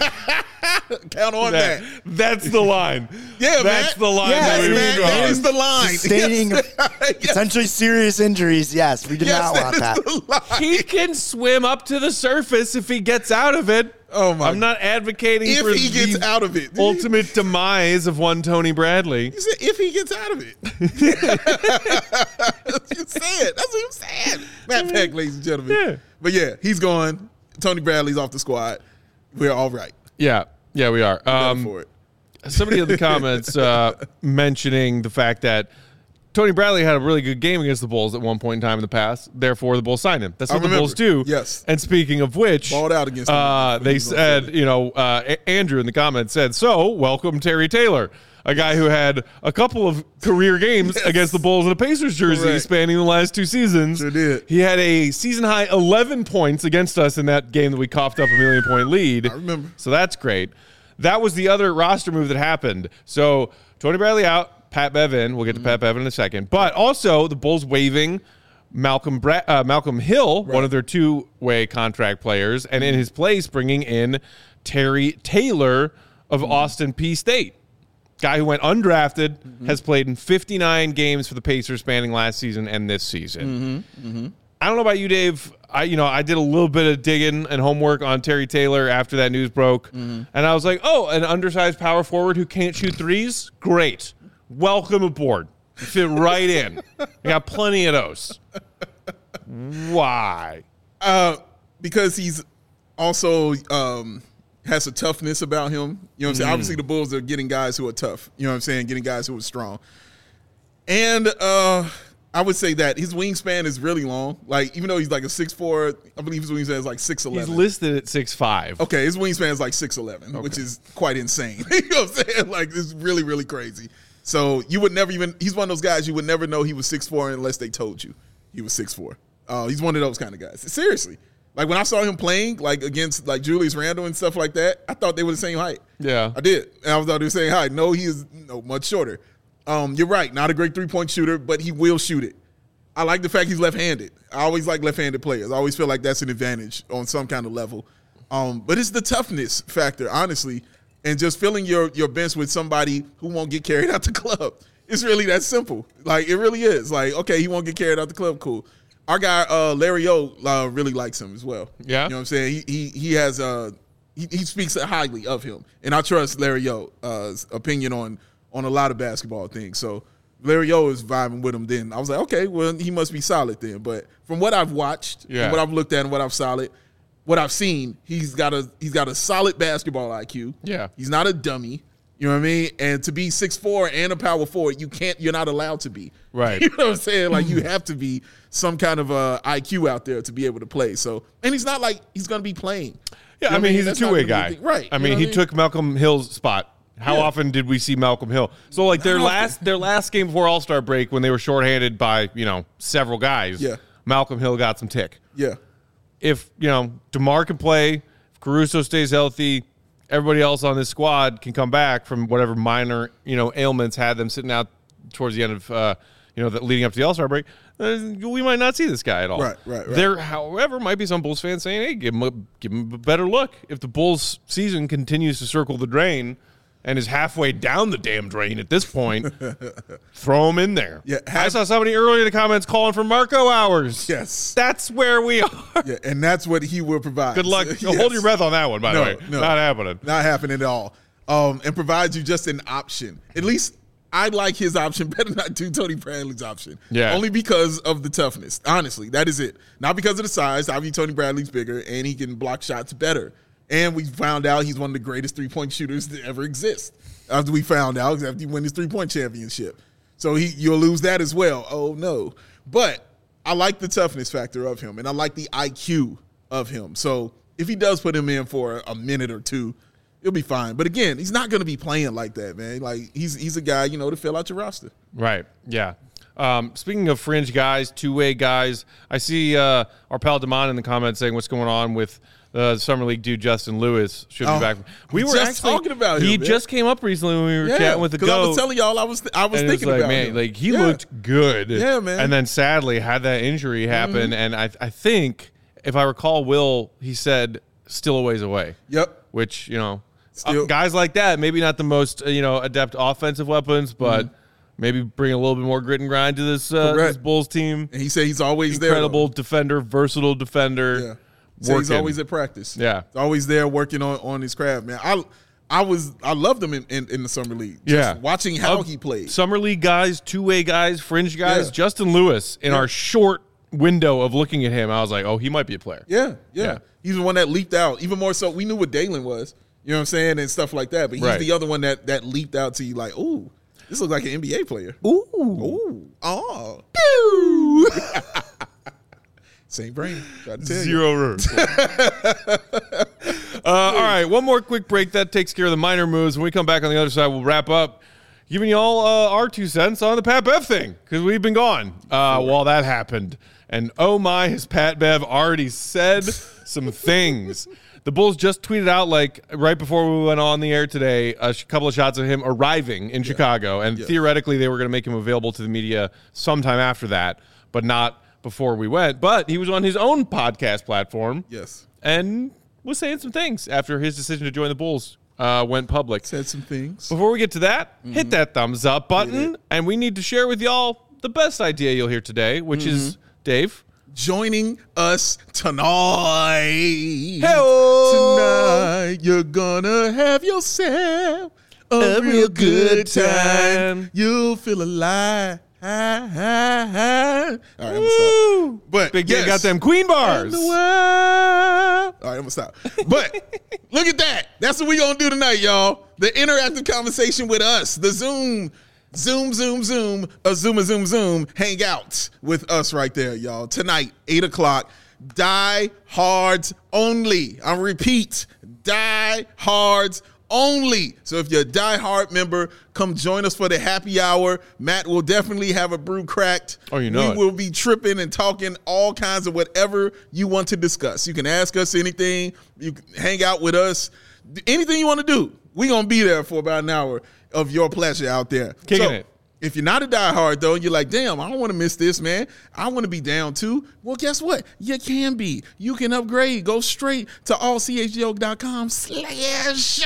Count on That- that. that's the line. Yeah, That's Matt. the line Yeah, that we Matt, draw. that is the line. Sustaining Yes. Yes. potentially serious injuries. Yes, we do Yes, not that want is that. the line. He can swim up to the surface if he gets out of it. Oh, my I'm not advocating If for he gets the out of it. ultimate demise of one Tony Bradley. You said if he gets out of it. That's what you said. That's what you said. Matt Peck, ladies and gentlemen. Yeah. But yeah, he's gone. Tony Bradley's off the squad. We're all right. Yeah, yeah, we are. Better Um, for it. somebody in the comments uh, mentioning the fact that Tony Bradley had a really good game against the Bulls at one point in time in the past. Therefore, the Bulls signed him. That's I what the remember. Bulls do. Yes. And speaking of which, Balled out against them uh, when they he was on said, Philly. you know, uh, A- Andrew in the comments said, so welcome Terry Taylor, a guy who had a couple of career games Yes. against the Bulls in a Pacers jersey Correct. spanning the last two seasons. Sure did. He had a season high eleven points against us in that game that we coughed up a million point lead. I remember. So that's great. That was the other roster move that happened. So Tony Bradley out, Pat Bev in. We'll get to Mm-hmm. Pat Bev in a second. But also the Bulls waiving Malcolm Bra- uh, Malcolm Hill, one of their two-way contract players, and in his place bringing in Terry Taylor of Mm-hmm. Austin P State. Guy who went undrafted, Mm-hmm. has played in fifty-nine games for the Pacers spanning last season and this season. Mm-hmm. I don't know about you, Dave. I, you know, I did a little bit of digging and homework on Terry Taylor after that news broke, Mm-hmm. and I was like, "Oh, an undersized power forward who can't shoot threes? Great, welcome aboard. Fit right in. We got plenty of those. Why? Uh, because he's also um, has a toughness about him. You know what I'm saying? Obviously, the Bulls are getting guys who are tough. You know what I'm saying? Getting guys who are strong. And uh, I would say that his wingspan is really long. Like, even though he's like a six four, I believe his wingspan is like six eleven. He's listed at six five. Okay, his wingspan is like six eleven, okay. which is quite insane. You know what I'm saying? Like, it's really, really crazy. So you would never even – he's one of those guys you would never know he was six four unless they told you he was six four. Uh, he's one of those kind of guys. Seriously. Like, when I saw him playing, like, against, like, Julius Randle and stuff like that, I thought they were the same height. Yeah. I did. And I thought they were the same height. No, he is no much shorter. Um, you're right. Not a great three-point shooter, but he will shoot it. I like the fact he's left-handed. I always like left-handed players. I always feel like that's an advantage on some kind of level. Um, but it's the toughness factor, honestly, and just filling your, your bench with somebody who won't get carried out the club. It's really that simple. Like, it really is. Like, okay, he won't get carried out the club, cool. Our guy, uh, Larry O, uh, really likes him as well. Yeah. You know what I'm saying? He he, he has uh, he, he speaks highly of him. And I trust Larry O's uh, opinion on, on a lot of basketball things. So Larry O is vibing with him then. I was like, okay, well, he must be solid then. But from what I've watched, yeah. and what I've looked at and what I've solid, what I've seen, he's got a he's got a solid basketball I Q. Yeah. He's not a dummy. You know what I mean? And to be six four and a power forward, you can't, you're not allowed to be. Right. You know what I'm saying? Like, you have to be some kind of uh, I Q out there to be able to play. So, and he's not like he's going to be playing. Yeah, You know I mean, he's a That's not two-way gonna be guy. the- Right. I You mean, know he what took Malcolm Hill's spot. How Yeah. often did we see Malcolm Hill? So, like, their Not last often. their last game before All-Star break, when they were shorthanded by, you know, several guys, Yeah. Malcolm Hill got some tick. Yeah. If, you know, DeMar can play, if Caruso stays healthy, everybody else on this squad can come back from whatever minor, you know, ailments had them sitting out towards the end of, uh, you know, the, leading up to the All-Star break, uh, we might not see this guy at all. Right, right, right. There, however, might be some Bulls fans saying, hey, give him a, give him a better look. If the Bulls season continues to circle the drain and is halfway down the damn drain at this point, throw him in there. Yeah, I have- saw somebody earlier in the comments calling for Marco hours. Yes. That's where we are. Yeah, and that's what he will provide. Good luck. Yes. Hold your breath on that one, by No, the way. no. Not happening. Not happening at all. Um, and provides you just an option. At least I like his option better than I do Tony Bradley's option. Yeah. Only because of the toughness. Honestly, that is it. Not because of the size. Obviously, Tony Bradley's bigger, and he can block shots better. And we found out he's one of the greatest three-point shooters to ever exist. After we found out, after he won his three-point championship. So he you'll lose that as well. Oh, no. But I like the toughness factor of him, and I like the I Q of him. So if he does put him in for a minute or two, it'll be fine. But again, he's not going to be playing like that, man. Like, he's he's a guy, you know, to fill out your roster. Right. Yeah. Um, speaking of fringe guys, two-way guys, I see uh, our pal Damon in the comments saying what's going on with the Summer League dude Justin Lewis. Should Oh, be back. We were just actually talking about him, He man. just came up recently when we were chatting with the because I GOAT. was telling y'all I was I was and it was thinking like, about man, him. like he Yeah. looked good. Yeah, man. And then sadly had that injury happen, Mm-hmm. and I I think if I recall, Will he said still a ways away. Yep. Which you know, Still- uh, guys like that, maybe not the most uh, you know adept offensive weapons, but maybe bring a little bit more grit and grind to this uh, Correct. this Bulls team. And he said he's always Incredible there. defender, versatile defender. Yeah. So he's working. always at practice. Yeah. He's always there working on, on his craft, man. I I was I loved him in, in, in the summer league. Just Yeah. watching how Of he played. Summer League guys, two way guys, fringe guys. Yeah. Justin Lewis in Yeah. our short window of looking at him, I was like, oh, he might be a player. Yeah, yeah, Yeah. He's the one that leaped out. Even more so, we knew what Dalen was. You know what I'm saying? And stuff like that. But he's Right. the other one that that leaped out to you like, ooh, this looks like an N B A player. Ooh. Ooh. Oh. Pew. Same brain. Tried to tell you. Zero room. uh, all right, one more quick break. That takes care of the minor moves. When we come back on the other side, we'll wrap up giving you all uh, our two cents on the Pat Bev thing because we've been gone uh, while that happened. And oh my, has Pat Bev already said some things. The Bulls just tweeted out, like, right before we went on the air today, a sh- couple of shots of him arriving in Chicago. And Yeah. theoretically, they were going to make him available to the media sometime after that, but not before we went. But he was on his own podcast platform Yes. and was saying some things after his decision to join the Bulls uh, went public. Said some things. Before we get to that, Mm-hmm. hit that thumbs up button, and we need to share with y'all the best idea you'll hear today, which Mm-hmm. is, Dave. Joining us tonight. Hey-o. Tonight, you're gonna have yourself a, A real real good good time. time. You'll feel alive. All right, I'm gonna stop. Woo! But Big yes. Day got them Queen bars. In the world. All right, I'm gonna stop. But look at that. That's what we gonna do tonight, y'all. The interactive conversation with us. The Zoom Zoom, zoom, zoom, a zoom, a zoom, zoom, hang out with us right there, y'all. Tonight, eight o'clock, Die Hards only. I repeat, Die Hards only. So if you're a Die Hard member, come join us for the happy hour. Matt will definitely have a brew cracked. Oh, you know We it. will be tripping and talking all kinds of whatever you want to discuss. You can ask us anything. You can hang out with us. Anything you want to do. We're going to be there for about an hour of your pleasure out there. Kicking so, it. If you're not a diehard, though, and you're like, damn, I don't want to miss this, man. I want to be down, too. Well, guess what? You can be. You can upgrade. Go straight to all c h g o dot com slash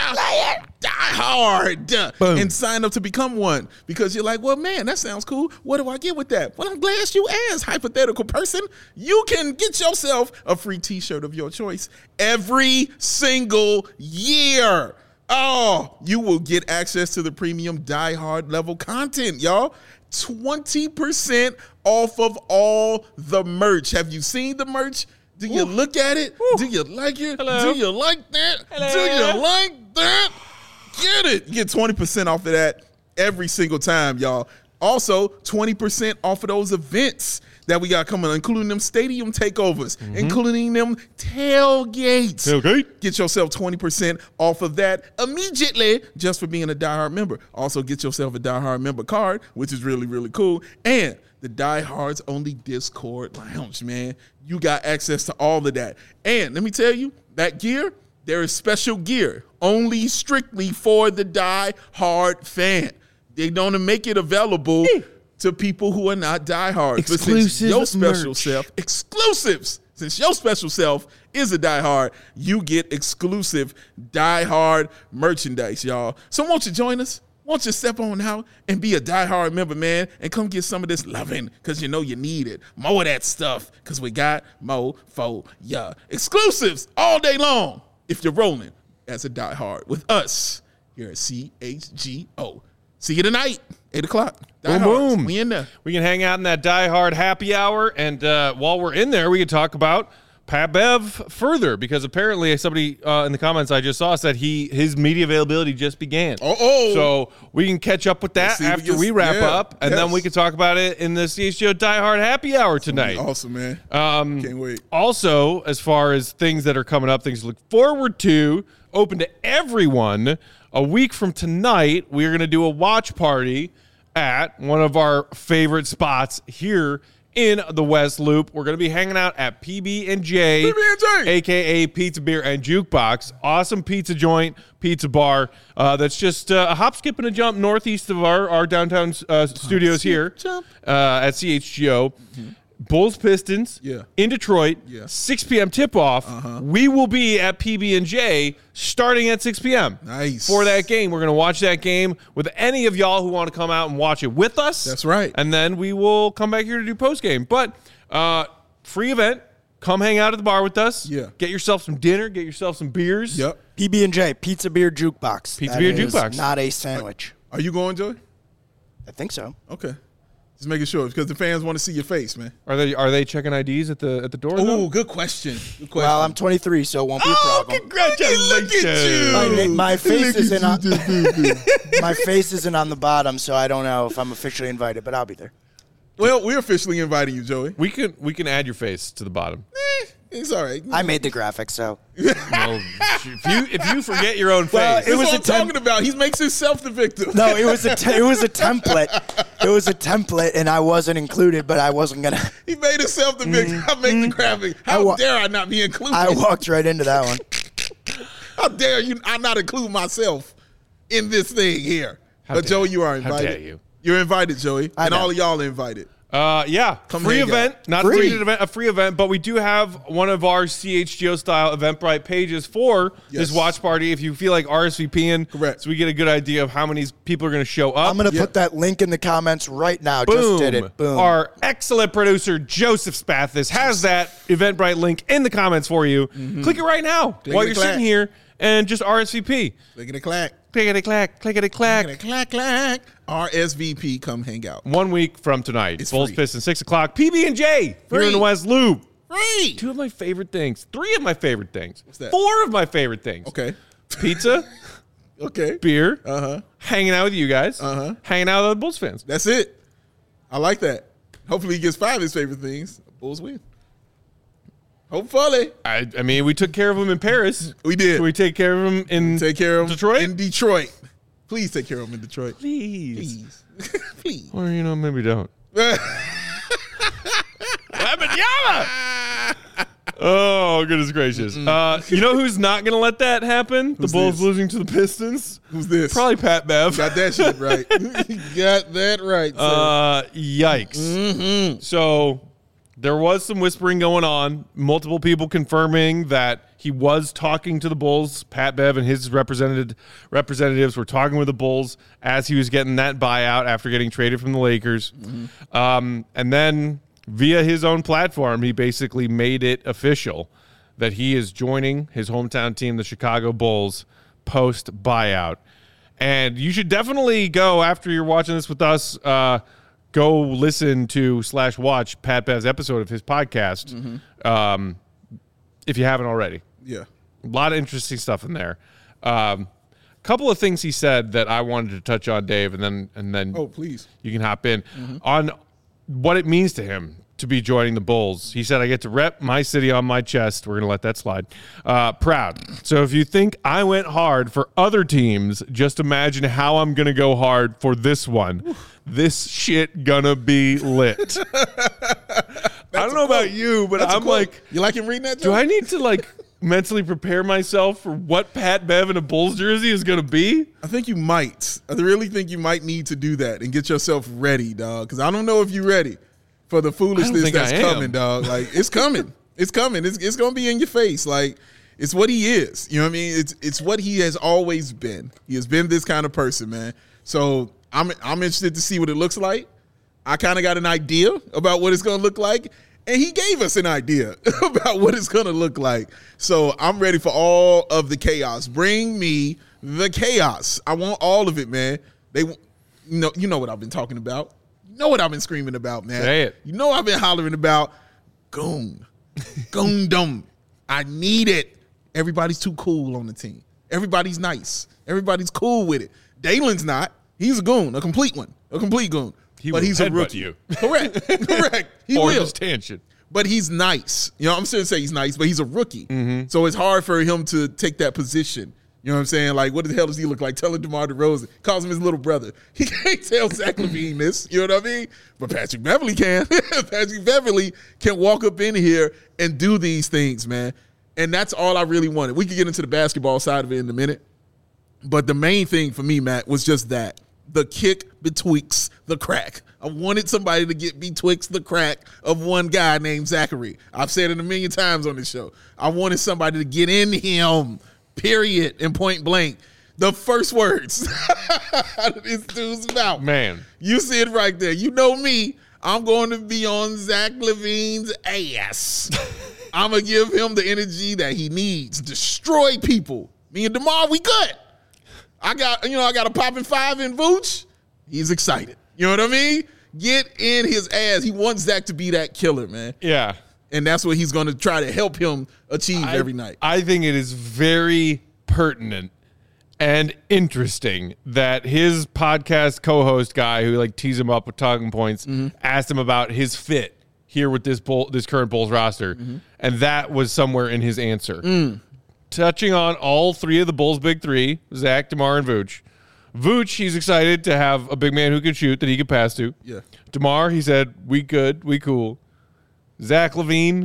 diehard Boom. and sign up to become one because you're like, well, man, that sounds cool. What do I get with that? Well, I'm glad you asked, hypothetical person. You can get yourself a free T-shirt of your choice every single year. Oh, you will get access to the premium Die Hard level content, y'all. twenty percent off of all the merch. Have you seen the merch? Do you Ooh. look at it? Ooh. Do you like it? Hello. Do you like that? Hello. Do you like that? Get it. You get twenty percent off of that every single time, y'all. Also, twenty percent off of those events that we got coming, including them stadium takeovers, mm-hmm. including them tailgates. Tailgate. Get yourself twenty percent off of that immediately just for being a Die Hard member. Also, get yourself a Die Hard member card, which is really, really cool. And the Die Hard's only Discord lounge, man. You got access to all of that. And let me tell you, that gear, there is special gear only strictly for the Die Hard fan. They're going to make it available to people who are not diehards. Exclusive But since your special merch. self, exclusives. Since your special self is a diehard, you get exclusive diehard merchandise, y'all. So won't you join us? Won't you step on out and be a diehard member, man, and come get some of this loving because you know you need it. More of that stuff because we got more for ya. Exclusives all day long if you're rolling as a diehard with us here at C H G O. See you tonight, eight o'clock. Die Boom, Hards. boom. We in there. We can hang out in that Die Hard happy hour, and uh, while we're in there, we can talk about Pat Bev further because apparently somebody uh, in the comments I just saw said he his media availability just began. Uh-oh. So we can catch up with that Let's see if we after can- we wrap yeah, up, and then yes. we can talk about it in the C H G O Die Hard happy hour tonight. Awesome, man. Um, Can't wait. Also, as far as things that are coming up, things to look forward to, open to everyone. A week from tonight, we're going to do a watch party at one of our favorite spots here in the West Loop. We're going to be hanging out at P B and J, P B and J. a k a. Pizza, Beer, and Jukebox. Awesome pizza joint, pizza bar. Uh, that's just uh, a hop, skip, and a jump northeast of our, our downtown uh, studios skip, here jump. uh, at C H G O. Bulls Pistons Yeah. in Detroit, Yeah. six p.m. tip-off. Uh-huh. We will be at P B and J starting at six p.m. Nice. For that game. We're going to watch that game with any of y'all who want to come out and watch it with us. That's right. And then we will come back here to do post-game. But uh, free event. Come hang out at the bar with us. Yeah. Get yourself some dinner. Get yourself some beers. Yep. P B and J, Pizza Beer Jukebox. Pizza That Beer is Jukebox. Not a sandwich. Are you going, Joey? I think so. Okay. Just making sure because the fans want to see your face, man. Are they are they checking I Ds at the at the door? Oh, though? good question. Good question. Well, I'm twenty-three, so it won't be a oh, problem. congratulations. Look at you. My, na- my face Look isn't on, at you. my face isn't on the bottom, so I don't know if I'm officially invited, but I'll be there. Well, we're officially inviting you, Joey. We can we can add your face to the bottom. Eh, it's all right. I made the graphics, so Well, if you if you forget your own face, Well, That's it was what a I'm temp- talking about. He makes himself the victim. no, it was a te- it was a template. It was a template, and I wasn't included, but I wasn't gonna. He made himself the victim. I make the graphic. How I wa- dare I not be included? I walked right into that one. How dare you? I not include myself in this thing here. How but dare- Joey, you are how invited. dare you. You're invited, Joey, I and know. all of y'all are invited. Uh, yeah, Come free hang event, out. not Free. free event, a free event, but we do have one of our C H G O style Eventbrite pages for Yes. this watch party. If you feel like RSVPing, Correct. so we get a good idea of how many people are going to show up. I'm gonna Yeah. put that link in the comments right now. Boom. Just did it. Boom. Our excellent producer Joseph Spathis has that Eventbrite link in the comments for you. Click it right now while you're Clickety-clack. sitting here and just R S V P. Clickety clack. Clickety clack, clickety clack. Clickety clack clack. R S V P, come hang out. One week from tonight, It's Bulls free. Pistons six o'clock. P B and J here Free. in the West Loop. Free. Two of my favorite things. Three of my favorite things. What's that? Four of my favorite things. Okay. Pizza, Okay. beer, Uh-huh. hanging out with you guys, Uh-huh. hanging out with other Bulls fans. That's it. I like that. Hopefully he gets five of his favorite things. Bulls win. Hopefully. I, I mean, we took care of him in Paris. We did. Can we take care of him in Take care of him Detroit? in Detroit. Please take care of him in Detroit. Please. Please. Please. Or, you know, maybe don't. Wembanyama! Oh, goodness gracious. Uh, you know who's not going to let that happen? Who's the Bulls this? losing to the Pistons? Who's this? Probably Pat Bev. Got that shit right. Got that right, sir. Uh, yikes. Mm-hmm. So there was some whispering going on. Multiple people confirming that he was talking to the Bulls. Pat Bev and his represented representatives were talking with the Bulls as he was getting that buyout after getting traded from the Lakers. Mm-hmm. Um, and then via his own platform, he basically made it official that he is joining his hometown team, the Chicago Bulls, post buyout. And you should definitely go, after you're watching this with us, uh, go listen to slash watch Pat Bev's episode of his podcast, mm-hmm. um, if you haven't already. Yeah. A lot of interesting stuff in there. Um, a couple of things he said that I wanted to touch on, Dave, and then and then Oh, please. you can hop in on what it means to him to be joining the Bulls. He said, I get to rep my city on my chest. We're going to let that slide. Uh, proud. So if you think I went hard for other teams, just imagine how I'm going to go hard for this one. This shit gonna be lit. I don't know about you, but That's a I'm quote. like, You like him reading that, do Joe? I need to like mentally prepare myself for what Pat Bev in a Bulls jersey is going to be? I think you might. I really think you might need to do that and get yourself ready, dog. Because I don't know if you're ready for the foolishness think that's I am. coming, dog. Like, it's coming. It's coming. It's, it's going to be in your face. Like, it's what he is. You know what I mean? It's it's what he has always been. He has been this kind of person, man. So I'm I'm interested to see what it looks like. I kind of got an idea about what it's going to look like. And he gave us an idea about what it's going to look like. So I'm ready for all of the chaos. Bring me the chaos. I want all of it, man. They, you know, you know what I've been talking about. You know what I've been screaming about, man. Say it. You know I've been hollering about goon. Goondom. I need it. Everybody's too cool on the team. Everybody's nice. Everybody's cool with it. Dalen's not. He's a goon, a complete one, a complete goon. He but will he's a headbutt rookie. you. Correct. Correct. He or will. this tangent. But he's nice. You know, I'm still gonna say he's nice, but he's a rookie. Mm-hmm. So it's hard for him to take that position. You know what I'm saying? Like, what the hell does he look like? Telling DeMar DeRozan. Calls him his little brother. He can't tell Zach LaVine this. You know what I mean? But Patrick Beverly can. Patrick Beverly can walk up in here and do these things, man. And that's all I really wanted. We could get into the basketball side of it in a minute. But the main thing for me, Matt, was just that. The kick betwixt the crack. I wanted somebody to get betwixt the crack of one guy named Zachary. I've said it a million times on this show. I wanted somebody to get in him, period, and point blank. The first words out of this dude's mouth. Man. You see it right there. You know me. I'm going to be on Zach LaVine's ass. I'm going to give him the energy that he needs. Destroy people. Me and DeMar, we good. I got, you know, I got a popping five in Vooch. He's excited. You know what I mean? Get in his ass. He wants Zach to be that killer, man. Yeah. And that's what he's going to try to help him achieve I, every night. I think it is very pertinent and interesting that his podcast co-host guy who like teased him up with talking points mm-hmm. asked him about his fit here with this bull, this current Bulls roster. Mm-hmm. And that was somewhere in his answer. Mm. Touching on all three of the Bulls' big three, Zach, DeMar, and Vooch. Vooch, he's excited to have a big man who can shoot that he can pass to. Yeah. DeMar, he said, we good, we cool. Zach LaVine,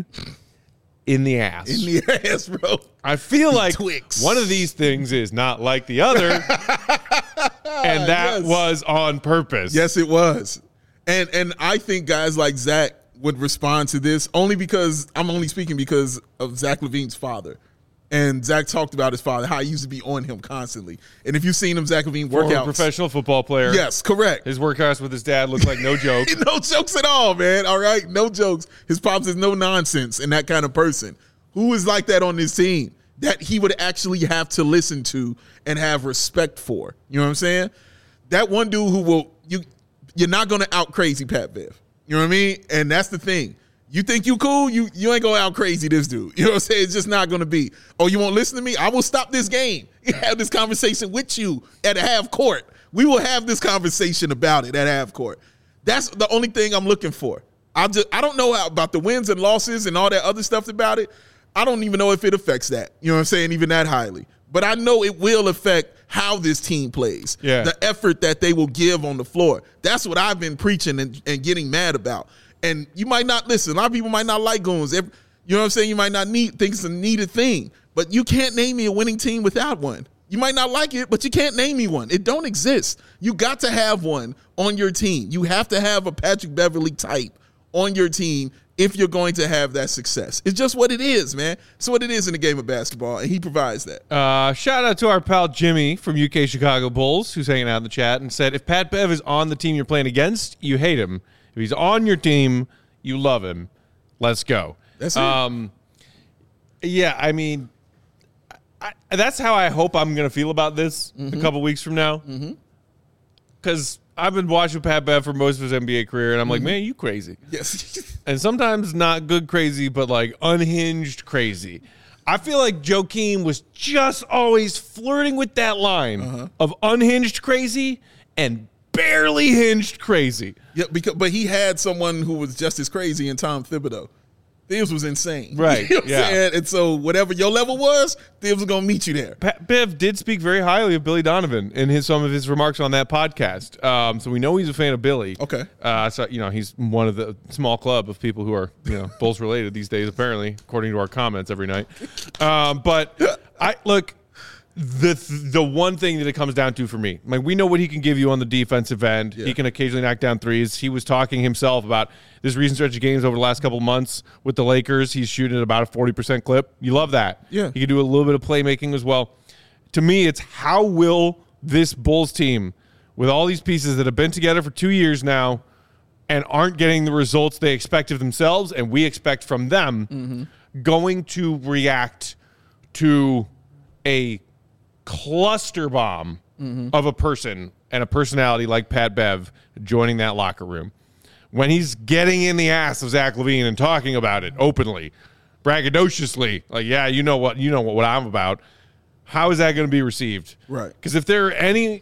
in the ass. In the ass, bro. I feel like Twix. One of these things is not like the other, and that Yes. was on purpose. Yes, it was. And and I think guys like Zach would respond to this only because I'm only speaking because of Zach LaVine's father. And Zach talked about his father, how he used to be on him constantly. And if you've seen him, Zach LaVine Former workouts. professional football player. Yes, correct. His workouts with his dad look like no joke. No jokes at all, man. All right? No jokes. His pops is no nonsense and that kind of person. Who is like that on this team that he would actually have to listen to and have respect for? You know what I'm saying? That one dude who will, you, you're not going to out crazy Pat Bev. You know what I mean? And that's the thing. You think you cool? You you ain't going out crazy this dude. You know what I'm saying? It's just not going to be. Oh, you won't listen to me? I will stop this game. Have this conversation with you at a half court. We will have this conversation about it at half court. That's the only thing I'm looking for. I just I don't know how, about the wins and losses and all that other stuff about it. I don't even know if it affects that. You know what I'm saying? Even that highly. But I know it will affect how this team plays. Yeah. The effort that they will give on the floor. That's what I've been preaching and, and getting mad about. And you might not listen. A lot of people might not like goons. If, you know what I'm saying? You might not need think it's a needed thing. But you can't name me a winning team without one. You might not like it, but you can't name me one. It don't exist. You got to have one on your team. You have to have a Patrick Beverley type on your team if you're going to have that success. It's just what it is, man. It's what it is in the game of basketball, and he provides that. Uh, shout out to our pal Jimmy from U K Chicago Bulls, who's hanging out in the chat, and said, if Pat Bev is on the team you're playing against, you hate him. If he's on your team, you love him. Let's go. That's it. Um, yeah, I mean, I, that's how I hope I'm going to feel about this mm-hmm. a couple weeks from now. Because mm-hmm. I've been watching Pat Bev for most of his N B A career, and I'm mm-hmm. like, man, you crazy. Yes. And sometimes not good crazy, but like unhinged crazy. I feel like Joakim was just always flirting with that line uh-huh. of unhinged crazy and barely hinged crazy. Yeah, because but he had someone who was just as crazy in Tom Thibodeau. Thibs was insane. Right. You know what yeah. I'm saying? And so whatever your level was, Thibs was going to meet you there. Pat Bev did speak very highly of Billy Donovan in his some of his remarks on that podcast. Um, so we know he's a fan of Billy. Okay. Uh, so, you know, he's one of the small club of people who are, you know, Bulls related these days, apparently, according to our comments every night. Um, but I look, the the one thing that it comes down to for me, like we know what he can give you on the defensive end. Yeah. He can occasionally knock down threes. He was talking himself about this recent stretch of games over the last couple of months with the Lakers. He's shooting at about a forty percent clip. You love that. Yeah. He can do a little bit of playmaking as well. To me, it's how will this Bulls team, with all these pieces that have been together for two years now and aren't getting the results they expect of themselves and we expect from them, mm-hmm. going to react to a cluster bomb mm-hmm. of a person and a personality like Pat Bev joining that locker room when he's getting in the ass of Zach LaVine and talking about it openly, braggadociously, like, yeah, you know what, you know what, what I'm about. How is that going to be received? Right. Because if there are any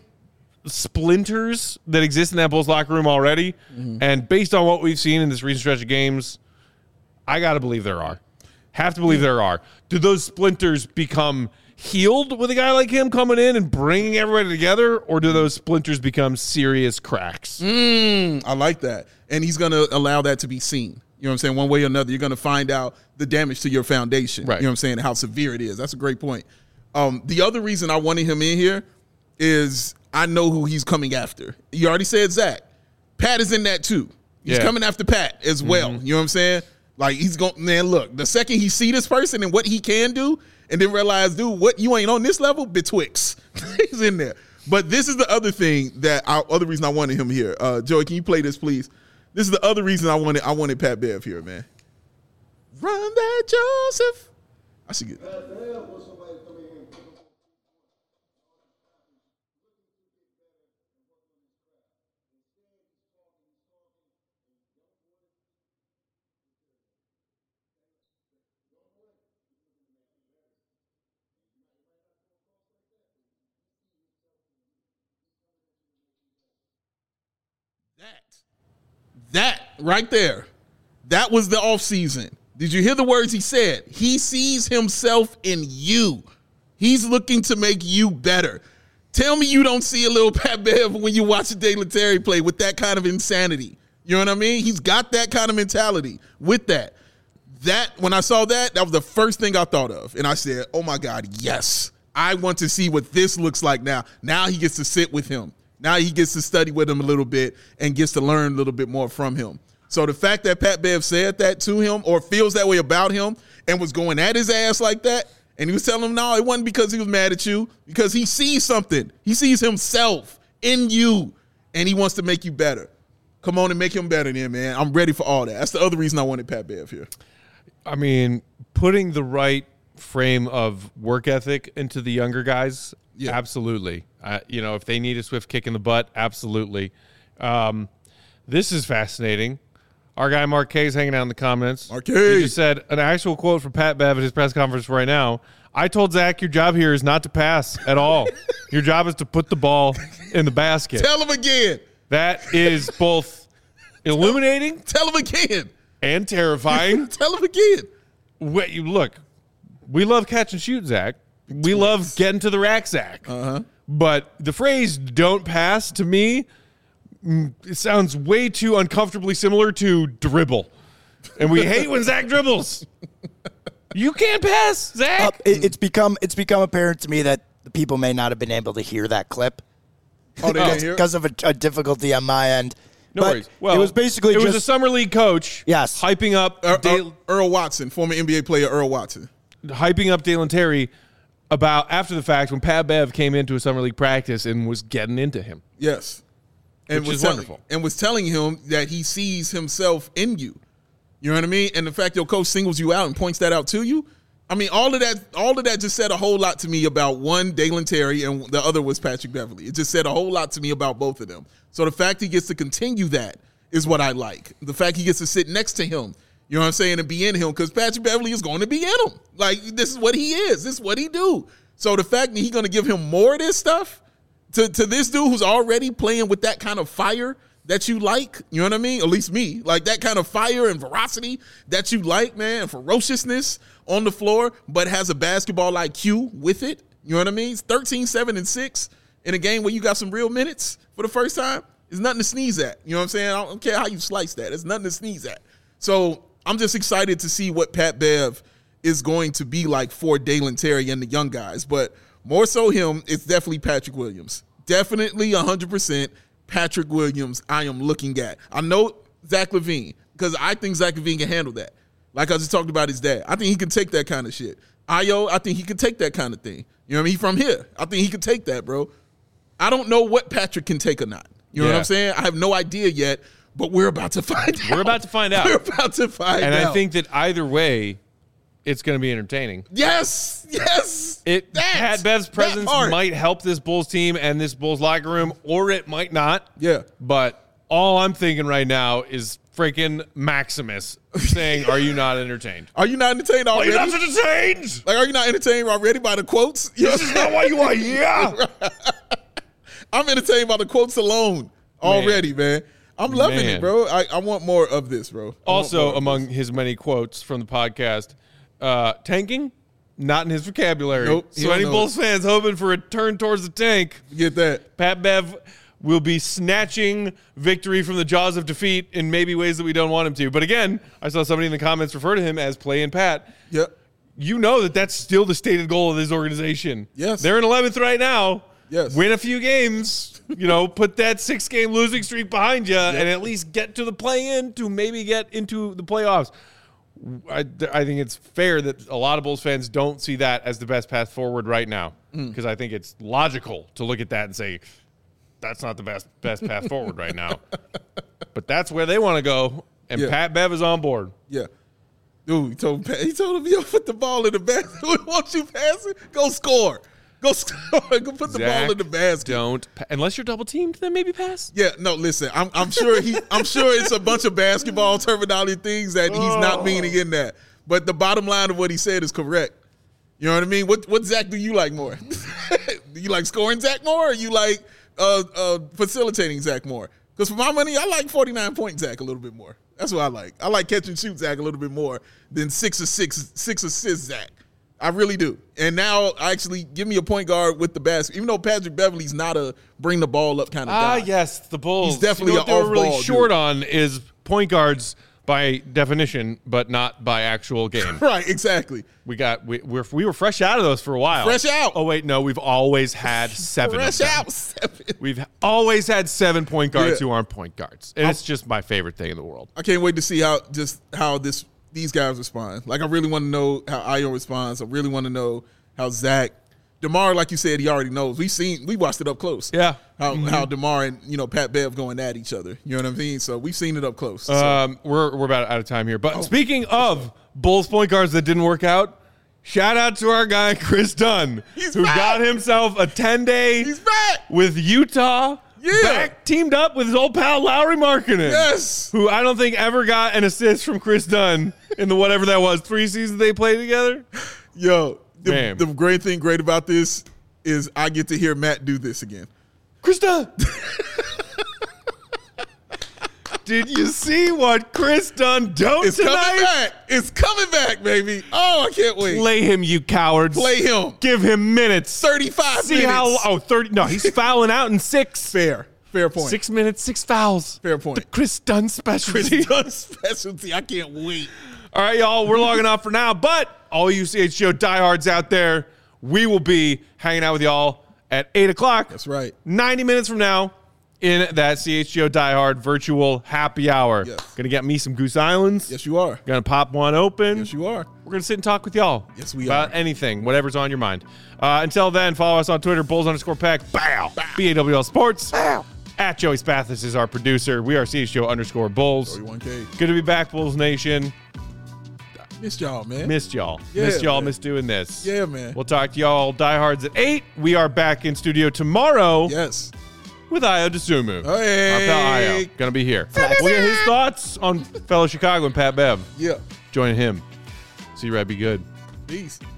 splinters that exist in that Bulls locker room already, mm-hmm. and based on what we've seen in this recent stretch of games, I got to believe there are. Have to believe there are. Do those splinters become healed with a guy like him coming in and bringing everybody together, or do those splinters become serious cracks? Mm, I like that. And he's going to allow that to be seen. You know what I'm saying? One way or another, you're going to find out the damage to your foundation. Right. You know what I'm saying? How severe it is. That's a great point. Um, the other reason I wanted him in here is I know who he's coming after. You already said Zach. Pat is in that too. He's yeah. coming after Pat as well. Mm-hmm. You know what I'm saying? Like, he's going, man, look, the second he see this person and what he can do, and then realize, dude, what, you ain't on this level? Betwixt. He's in there. But this is the other thing that, I, other reason I wanted him here. Uh, Joey, can you play this, please? This is the other reason I wanted I wanted Pat Bev here, man. Run that, Joseph. I should get that. That right there, that was the offseason. Did you hear the words he said? He sees himself in you. He's looking to make you better. Tell me you don't see a little Pat Bev when you watch Dale Terry play with that kind of insanity. You know what I mean? He's got that kind of mentality with that. That, when I saw that, that was the first thing I thought of. And I said, oh my God, yes. I want to see what this looks like now. Now he gets to sit with him. Now he gets to study with him a little bit and gets to learn a little bit more from him. So the fact that Pat Bev said that to him or feels that way about him and was going at his ass like that, and he was telling him, no, it wasn't because he was mad at you, because he sees something. He sees himself in you, and he wants to make you better. Come on and make him better then, man. I'm ready for all that. That's the other reason I wanted Pat Bev here. I mean, putting the right frame of work ethic into the younger guys, yeah. absolutely. Uh, you know, if they need a swift kick in the butt, absolutely. Um, this is fascinating. Our guy Mark K is hanging out in the comments. Mark K. He just said an actual quote from Pat Bev at his press conference right now. I told Zach, your job here is not to pass at all. Your job is to put the ball in the basket. Tell him again. That is both illuminating Tell him again. and terrifying. Tell him again. Wait, you look, we love catch and shoot, Zach. We love getting to the rack, Zach. Uh-huh. But the phrase don't pass, to me, mm, it sounds way too uncomfortably similar to dribble. And we hate when Zach dribbles. You can't pass, Zach. Uh, it, it's become it's become apparent to me that the people may not have been able to hear that clip. Oh, they didn't hear it? Because of a, a difficulty on my end. No But worries. Well, it was basically it just was a summer league coach. Yes. hyping up Er- Dale, Er- Earl Watson, former N B A player Earl Watson. hyping up Dalen Terry about after the fact when Pat Bev came into a summer league practice and was getting into him. Yes. And Which was is telling, wonderful. And was telling him that he sees himself in you. You know what I mean? And the fact your coach singles you out and points that out to you. I mean, all of that, all of that just said a whole lot to me about one, Dalen Terry, and the other was Patrick Beverly. It just said a whole lot to me about both of them. So the fact he gets to continue that is what I like. The fact he gets to sit next to him, you know what I'm saying, and be in him, because Patrick Beverly is going to be in him. Like, this is what he is. This is what he do. So the fact that he's going to give him more of this stuff to, to this dude who's already playing with that kind of fire that you like, you know what I mean? At least me. Like that kind of fire and ferocity that you like, man, and ferociousness on the floor, but has a basketball I Q with it. You know what I mean? It's thirteen, seven, and six in a game where you got some real minutes for the first time. It's nothing to sneeze at. You know what I'm saying? I don't care how you slice that. It's nothing to sneeze at. So I'm just excited to see what Pat Bev is going to be like for Dalen Terry and the young guys. But more so him, it's definitely Patrick Williams. Definitely one hundred percent Patrick Williams I am looking at. I know Zach LaVine, because I think Zach LaVine can handle that. Like I just talked about his dad. I think he can take that kind of shit. Ayo, I think he can take that kind of thing. You know what I mean? He from here. I think he can take that, bro. I don't know what Patrick can take or not. You know Yeah. what I'm saying? I have no idea yet, but we're about to find out. We're about to find out. We're about to find And out. I think that either way, it's going to be entertaining. Yes, yes. It That- Pat Bev's that presence part. might help this Bulls team and this Bulls locker room, or it might not. Yeah. But all I'm thinking right now is freaking Maximus saying, "Are you not entertained? Are you not entertained Are already? you not entertained? Like, are you not entertained already by the quotes? You know This is not why you are here." I'm entertained by the quotes alone already, man. I'm loving Man. it, bro. I, I want more of this, bro. I want more Also, of among this. his many quotes from the podcast, uh, tanking, not in his vocabulary. Nope, he so don't any know Bulls fans hoping for a turn towards the tank, Get that. Pat Bev will be snatching victory from the jaws of defeat in maybe ways that we don't want him to. But again, I saw somebody in the comments refer to him as playing Pat. Yep. You know that that's still the stated goal of this organization. Yes. They're in eleventh right now. Yes. Win a few games, you know, put that six-game losing streak behind you, and at least get to the play-in to maybe get into the playoffs. I, I think it's fair that a lot of Bulls fans don't see that as the best path forward right now, because I think it's logical to look at that and say, that's not the best best path forward right now. But that's where they want to go, and Yeah. Pat Bev is on board. Yeah. Dude, he told Pat, he told him, yo, put the ball in the basket. Once you pass it, go score. Go score. Go put the Zach, ball in the basket. Don't pa- unless you're double teamed, then maybe pass. Yeah, no, listen. I'm, I'm sure he. I'm sure it's a bunch of basketball terminology things that he's not meaning in that. But the bottom line of what he said is correct. You know what I mean? What what Zach do you like more? Do you like scoring Zach more, or you like uh, uh, facilitating Zach more? Because for my money, I like forty-nine point Zach a little bit more. That's what I like. I like catch and shoot Zach a little bit more than six or six six assist Zach. I really do. And now, actually, give me a point guard with the basket. Even though Patrick Beverly's not a bring the ball up kind of Ah, guy. yes, the Bulls. He's definitely you know what an they were really off-ball short dude. on is point guards by definition, but not by actual game. Right, exactly. We got we we're, we were fresh out of those for a while. Fresh out. Oh wait, no, we've always had seven. Fresh of them. out. Seven. We've always had seven point guards Yeah. who aren't point guards, and it's just my favorite thing in the world. I can't wait to see how just how this these guys respond. Like, I really want to know how Ayo responds. I really want to know how Zach, DeMar, like you said, he already knows. We've seen, we watched it up close. Yeah. How how DeMar and you know Pat Bev going at each other. You know what I mean? So we've seen it up close. So, Um, we're we're about out of time here, Oh. but speaking of Bulls point guards that didn't work out, shout out to our guy Chris Dunn, He's who back. got himself a ten day he's back. with Utah Yeah. back teamed up with his old pal Lowry Markkinen. Yes. Who I don't think ever got an assist from Chris Dunn in the whatever that was, three seasons they played together. Yo, the, Man. the great thing great about this is I get to hear Matt do this again. Chris Dunn. Did you see what Chris Dunn don't It's tonight? coming back. It's coming back, baby. Oh, I can't wait. Play him, you cowards. Play him. Give him minutes. thirty-five See minutes. how oh thirty no, he's fouling out in six. Fair. Fair point. Six minutes, six fouls. Fair point. The Chris Dunn specialty. Chris Dunn specialty. I can't wait. All right, y'all, we're logging off for now. But all you C H G O diehards out there, we will be hanging out with y'all at eight o'clock. That's right. ninety minutes from now in that C H G O diehard virtual happy hour. Yes. Gonna get me some Goose Islands. Yes, you are. Gonna pop one open. Yes, you are. We're going to sit and talk with y'all. Yes, we about are. anything, whatever's on your mind. Uh, until then, follow us on Twitter, Bulls underscore Pack. Bow. B A W L Sports. Bow. At Joey Spathis is our producer. We are C H G O underscore Bulls. thirty-one K. Good to be back, Bulls Nation. Missed y'all, man. Missed y'all. Yeah, missed y'all. man. Missed doing this. Yeah, man. We'll talk to y'all diehards at eight. We are back in studio tomorrow Yes. with Io DeSumo. Hey. Our pal Io. Going to be here. We'll get his thoughts on fellow Chicago and Pat Bev. Yeah. Join him. See you, Red. Be good. Peace.